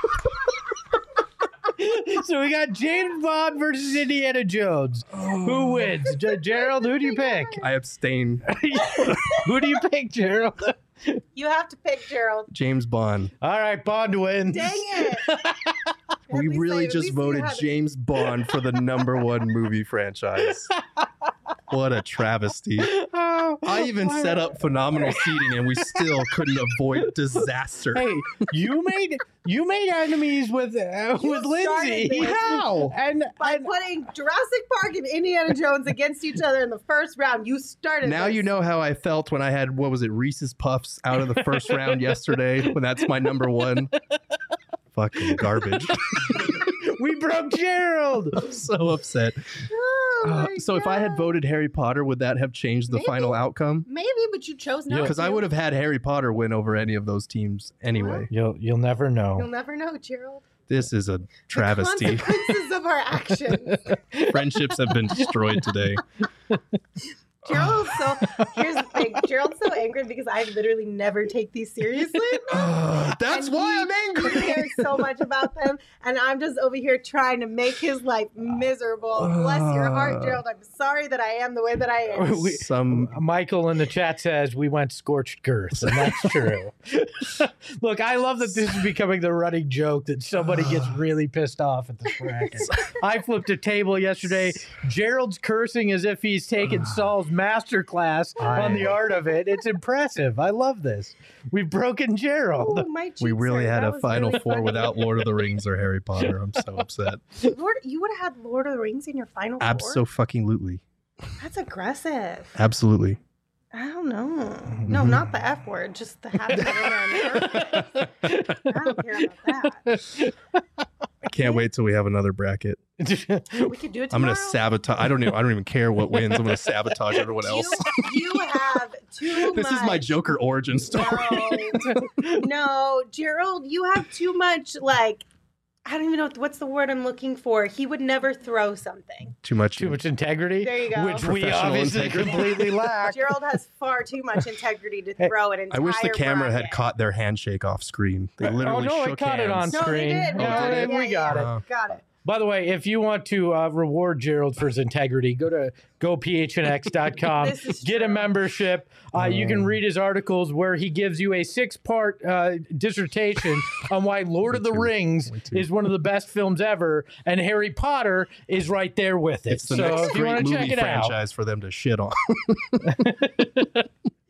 So we got James Bond versus Indiana Jones. Who wins? Gerald, who do you pick? I abstain. Who do you pick, Gerald? You have to pick Gerald. James Bond. All right, Bond wins. Dang it. We At least really at just least you voted had it. James Bond for the #1 movie franchise. What a travesty. Oh, I even set up phenomenal seating and we still couldn't avoid disaster. Hey, you made enemies with Lindsay. started this. How? And By putting Jurassic Park and Indiana Jones against each other in the first round, you started Now this. you know how I felt when I had, what was it, Reese's Puffs out of the first round yesterday, when that's my #1. Fucking garbage. we broke Gerald. I'm so upset. Oh my So if I had God. voted Harry Potter, would that have changed the Maybe. final outcome? Maybe, but you chose not Because to. I would have had Harry Potter win over any of those teams anyway. You'll never You'll know. never know, Gerald. This is a travesty. The consequences of our actions. Friendships have been destroyed today. Gerald, so here's the thing. Gerald's so angry because I literally never take these seriously. That's And why he I'm angry. cares so much about them, and I'm just over here trying to make his life miserable. Bless your heart, Gerald. I'm sorry that I am the way that I am. Some Michael in the chat says we went scorched girth, and that's true. Look, I love that this is becoming the running joke that somebody gets really pissed off at this bracket. I flipped a table yesterday. Gerald's cursing as if he's taken Saul's master class on the art of it. It's impressive. I love this. We've broken Gerald. Ooh, my cheeks we really hurt. had That a was Final really Four funny. without Lord of the Rings or Harry Potter. I'm so upset. You would have had Lord of the Rings in your Final Four? Abso-fucking-lutely. That's aggressive. Absolutely. I don't know. No, not the F word. Just the having it in there. I don't care about that. I can't wait till we have another bracket. We could do it tomorrow. I'm gonna sabotage. I don't even care what wins. I'm gonna sabotage everyone else. You have too This much. is my Joker origin story. No, Gerald, you have too much, like, I don't even know what's the word I'm looking for. He would never throw something. Too much. Too much integrity. There you go. Which we Professional obviously integrity. completely lack. Gerald has far too much integrity to throw an I entire wish the camera had bracket. caught their handshake off screen. They Oh literally no, shook I caught it on hands. No, they screen. did. No, Oh, did it? we got it. Got it. By the way, if you want to reward Gerald for his integrity, go to gophnx.com, This is get a true. membership. You can read his articles where he gives you a 6-part dissertation on why Lord of the Rings is one of the best films ever, and Harry Potter is right there with it. It's the so next if you want great to check movie it out, franchise for them to shit on.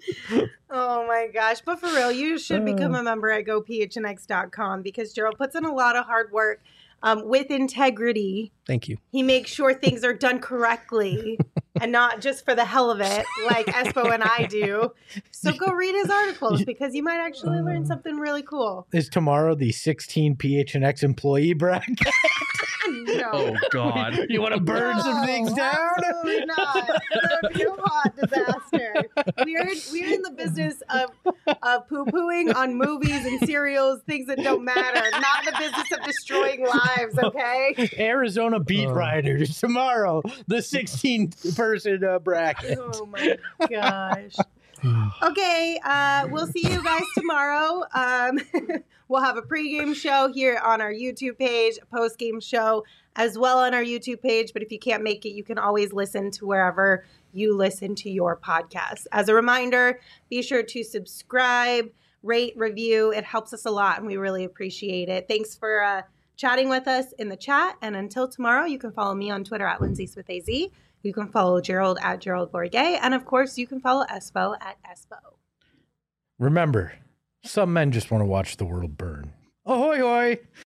Oh my gosh. But for real, you should become a member at gophnx.com because Gerald puts in a lot of hard work with integrity. Thank you. He makes sure things are done correctly and not just for the hell of it, like Espo and I do. So go read his articles because you might actually learn something really cool. Is tomorrow the 16 PHNX employee bracket? No. Oh, God. You want to burn some things down? Absolutely not. That would be a hot disaster. We're in the business of poo-pooing on movies and serials, things that don't matter, not the business of destroying lives, okay? Arizona beat writers tomorrow, the 16-person bracket. Oh my gosh. Okay, we'll see you guys tomorrow. We'll have a pregame show here on our YouTube page, a postgame show as well on our YouTube page. But if you can't make it, you can always listen to wherever you listen to your podcast. As a reminder, be sure to subscribe, rate, review. It helps us a lot, and we really appreciate it. Thanks for chatting with us in the chat. And until tomorrow, you can follow me on Twitter at LindsaySmithAZ. You can follow Gerald at Gerald Bourget. And of course, you can follow Espo at Espo. Remember, some men just want to watch the world burn. Ahoy, hoy!